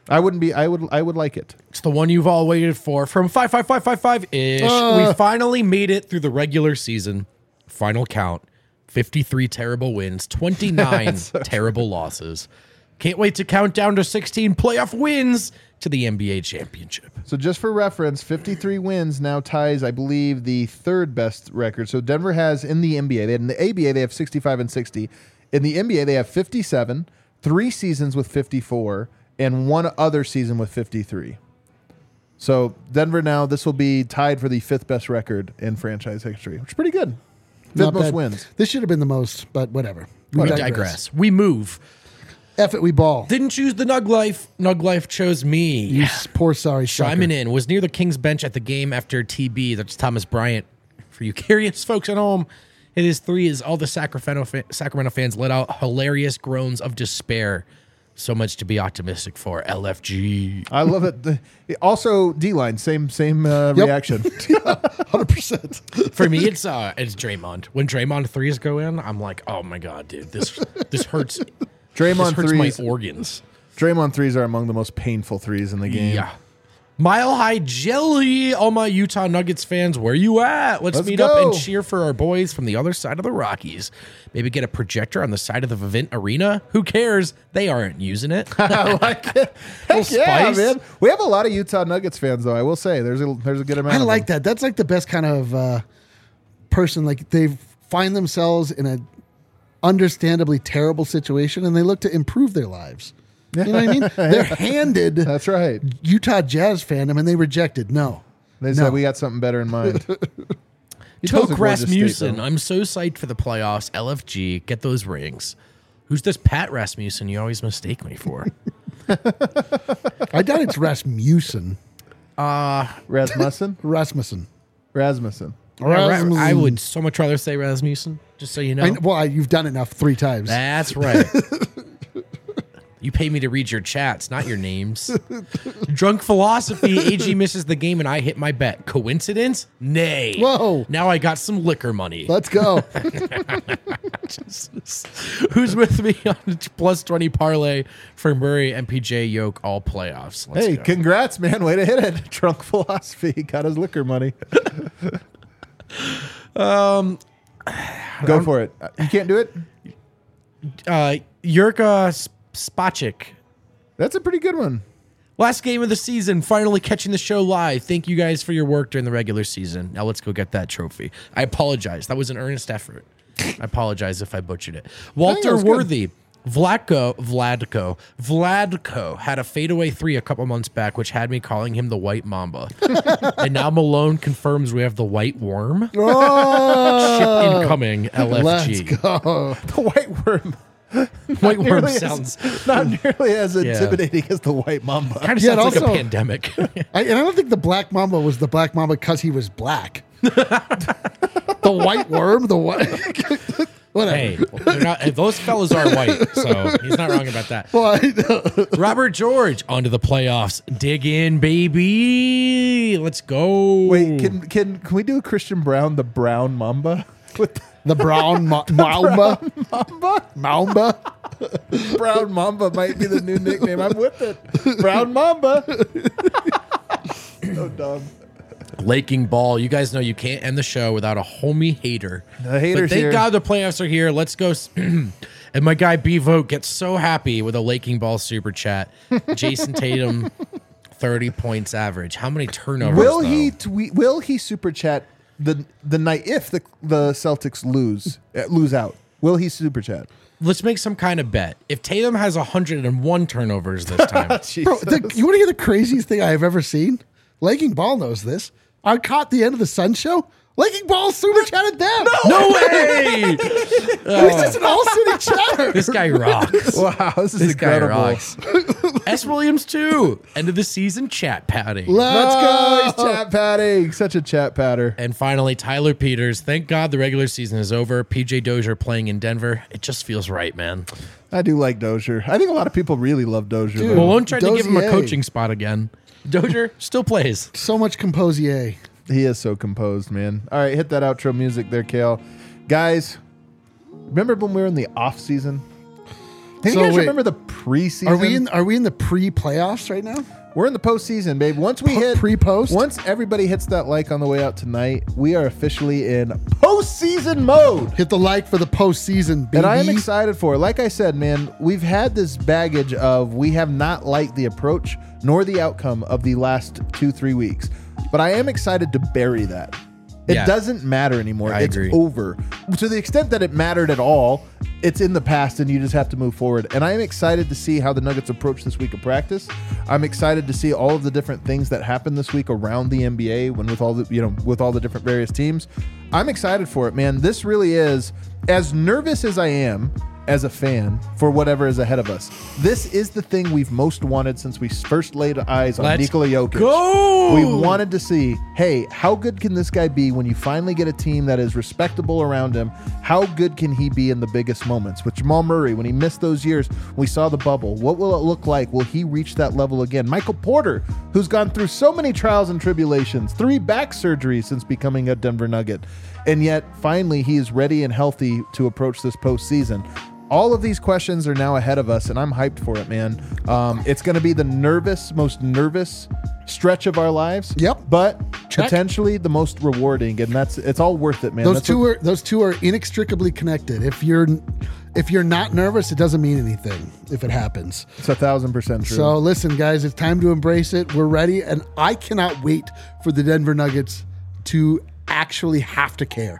I wouldn't be. I would. I would like it. It's the one you've all waited for. From five five five five five ish, Uh. we finally made it through the regular season. Final count: fifty-three terrible wins, twenty-nine terrible losses. Can't wait to count down to sixteen playoff wins to the N B A championship. So just for reference, fifty-three wins now ties, I believe, the third best record. So Denver has in the N B A. They, in the A B A, they have sixty-five and sixty. In the N B A, they have fifty-seven, three seasons with fifty-four, and one other season with fifty-three. So Denver now, this will be tied for the fifth best record in franchise history, which is pretty good. Fifth Not most bad. wins. This should have been the most, but whatever. We digress. We move. F it, we ball. Didn't choose the Nug Life. Nug Life chose me. You s- poor sorry sucker. Chiming in, was near the Kings bench at the game after T B. That's Thomas Bryant. For you curious folks at home, it is three as all the Sacramento, fa- Sacramento fans let out hilarious groans of despair. So much to be optimistic for. L F G. I love it. The- Also, D-line, same same uh, Yep. reaction. one hundred percent. For me, it's uh, it's Draymond. When Draymond threes go in, I'm like, oh my god, dude, this this hurts. Draymond this hurts threes. my organs. Draymond threes are among the most painful threes in the game. Yeah. Mile High Jelly, all my Utah Nuggets fans, where you at? Let's, Let's meet go. up and cheer for our boys from the other side of the Rockies. Maybe get a projector on the side of the Vivint Arena. Who cares? They aren't using it. I like it. Heck Little yeah, spice. man. We have a lot of Utah Nuggets fans, though. I will say there's a there's a good amount. I of like them. that. That's like the best kind of uh, person. Like they find themselves in a understandably terrible situation and they look to improve their lives. You know what I mean? They're handed That's right. Utah Jazz fandom and they rejected. No. They No. said we got something better in mind. Utah's a Toke gorgeous state, Rasmussen. though. I'm so psyched for the playoffs. L F G, get those rings. Who's this Pat Rasmussen you always mistake me for? I doubt it's Rasmussen. Rasmussen. Rasmussen. Rasmussen. Rasmussen. I would so much rather say Rasmussen, just so you know. I, well, I, you've done it enough three times. That's right. You pay me to read your chats, not your names. Drunk Philosophy, A G misses the game and I hit my bet. Coincidence? Nay. Whoa. Now I got some liquor money. Let's go. Who's with me on the plus twenty parlay for Murray and P J Yoke all playoffs? Let's Hey, go. congrats, man. Way to hit it. Drunk philosophy. Got his liquor money. um, Go for it. Uh, You can't do it? uh, Jurka Sp- Spacek. That's a pretty good one. Last game of the season, finally catching the show live. Thank you guys for your work during the regular season. Now let's go get that trophy. I apologize. That was an earnest effort. I apologize if I butchered it. Walter was good. Worthy. Vladko, Vladko, Vladko had a fadeaway three a couple months back, which had me calling him the White Mamba. And now Malone confirms we have the White Worm. Oh, Ship incoming, L F let's G. go. The white worm. White Worm Nearly as- sounds not nearly as intimidating as the white mamba. kind of Yeah, sounds and like a also- pandemic. I, and I don't think the Black Mamba was the Black Mamba because he was black. The White Worm, the white. Whatever. Hey, they're not, those fellas are white, so he's not wrong about that. Well, I know. Robert George, onto the playoffs. Dig in, baby. Let's go. Wait, can can can we do a Christian Brown, the brown mamba? With The brown ma- Mamba. mamba? Mamba. Brown mamba might be the new nickname. I'm with it. Brown mamba. So dumb. Laking ball. You guys know you can't end the show without a homie hater. The haters But thank here. God the playoffs are here. Let's go. s- And my guy B Vote gets so happy with a Laking ball super chat. Jason Tatum, thirty points average. How many turnovers? Will though? he tweet? Will he super chat the the night if the the Celtics lose uh, lose out? Will he super chat? Let's make some kind of bet. If Tatum has one hundred one turnovers this time, Bro, the, you want to hear the craziest thing I've ever seen? Laking Ball knows this. I caught the end of the Sun show. Laking Ball super chatted them. no way! He's just an all city chatter. This guy rocks. Wow, this is This guy incredible. rocks. S. Williams too. End of the season chat padding. Let's Oh, go. he's chat padding. Such a chat patter. And finally, Tyler Peters. Thank God the regular season is over. P J Dozier playing in Denver. It just feels right, man. I do like Dozier. I think a lot of people really love Dozier. Dude. though. Malone tried to give him a Dozier. coaching spot again. Dozier still plays. So much composier. He is so composed, man. All right, hit that outro music there, Kale. Guys, remember when we were in the off season? Hey, So you guys wait. remember the preseason? Are we in? Are we in the pre-playoffs right now? We're in the postseason, babe. Once we Po- hit pre-post? once everybody hits that like on the way out tonight, we are officially in postseason mode. Hit the like for the postseason, baby. And I am excited for it. Like I said, man, we've had this baggage of we have not liked the approach nor the outcome of the last two, three weeks. But I am excited to bury that. It Yeah. doesn't matter anymore. I it's agree. over. To the extent that it mattered at all, it's in the past and you just have to move forward. And I am excited to see how the Nuggets approach this week of practice. I'm excited to see all of the different things that happen this week around the N B A when with all the, you know, with all the different various teams. I'm excited for it, man. This really is, as nervous as I am as a fan for whatever is ahead of us. This is the thing we've most wanted since we first laid eyes on Let's Nikola Jokic. go! We wanted to see, hey, how good can this guy be when you finally get a team that is respectable around him? How good can he be in the biggest moments? With Jamal Murray, when he missed those years, we saw the bubble. What will it look like? Will he reach that level again? Michael Porter, who's gone through so many trials and tribulations, three back surgeries since becoming a Denver Nugget, and yet finally he is ready and healthy to approach this postseason. All of these questions are now ahead of us, and I'm hyped for it, man. Um, it's going to be the nervous, most nervous stretch of our lives. Yep. But Check. potentially the most rewarding, and that's it's all worth it, man. Those That's two what- are those two are inextricably connected. If you're if you're not nervous, it doesn't mean anything if it happens. it's a thousand percent true. So listen, guys, it's time to embrace it. We're ready, and I cannot wait for the Denver Nuggets to actually have to care.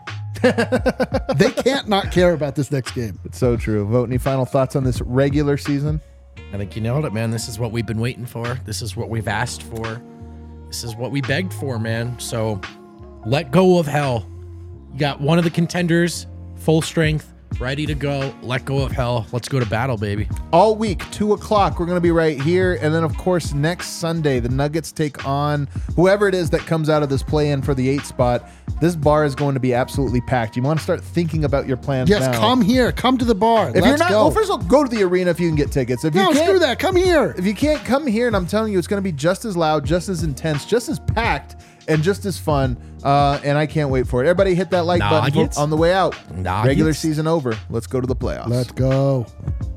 They can't not care about this next game. it's so true. Vote. Any final thoughts on this regular season? I think you nailed it, man. This is what we've been waiting for. This is what we've asked for. This is what we begged for, man. So let go of hell. You got one of the contenders, full strength, ready to go. Let go of hell. Let's go to battle, baby. All week, two o'clock, we're going to be right here. And then, of course, next Sunday, the Nuggets take on whoever it is that comes out of this play-in for the eight spot. This bar is going to be absolutely packed. You want to start thinking about your plans Yes, now. come here. Come to the bar. If Let's you're not, go. well, first of all, go to the arena if you can get tickets. If no, you can't, screw that. Come here. If you can't come here, and I'm telling you, it's going to be just as loud, just as intense, just as packed, and just as fun. Uh, and I can't wait for it. Everybody hit that like button Nuggets. for- on the way out. Nuggets. Regular season over. Let's go to the playoffs. Let's go.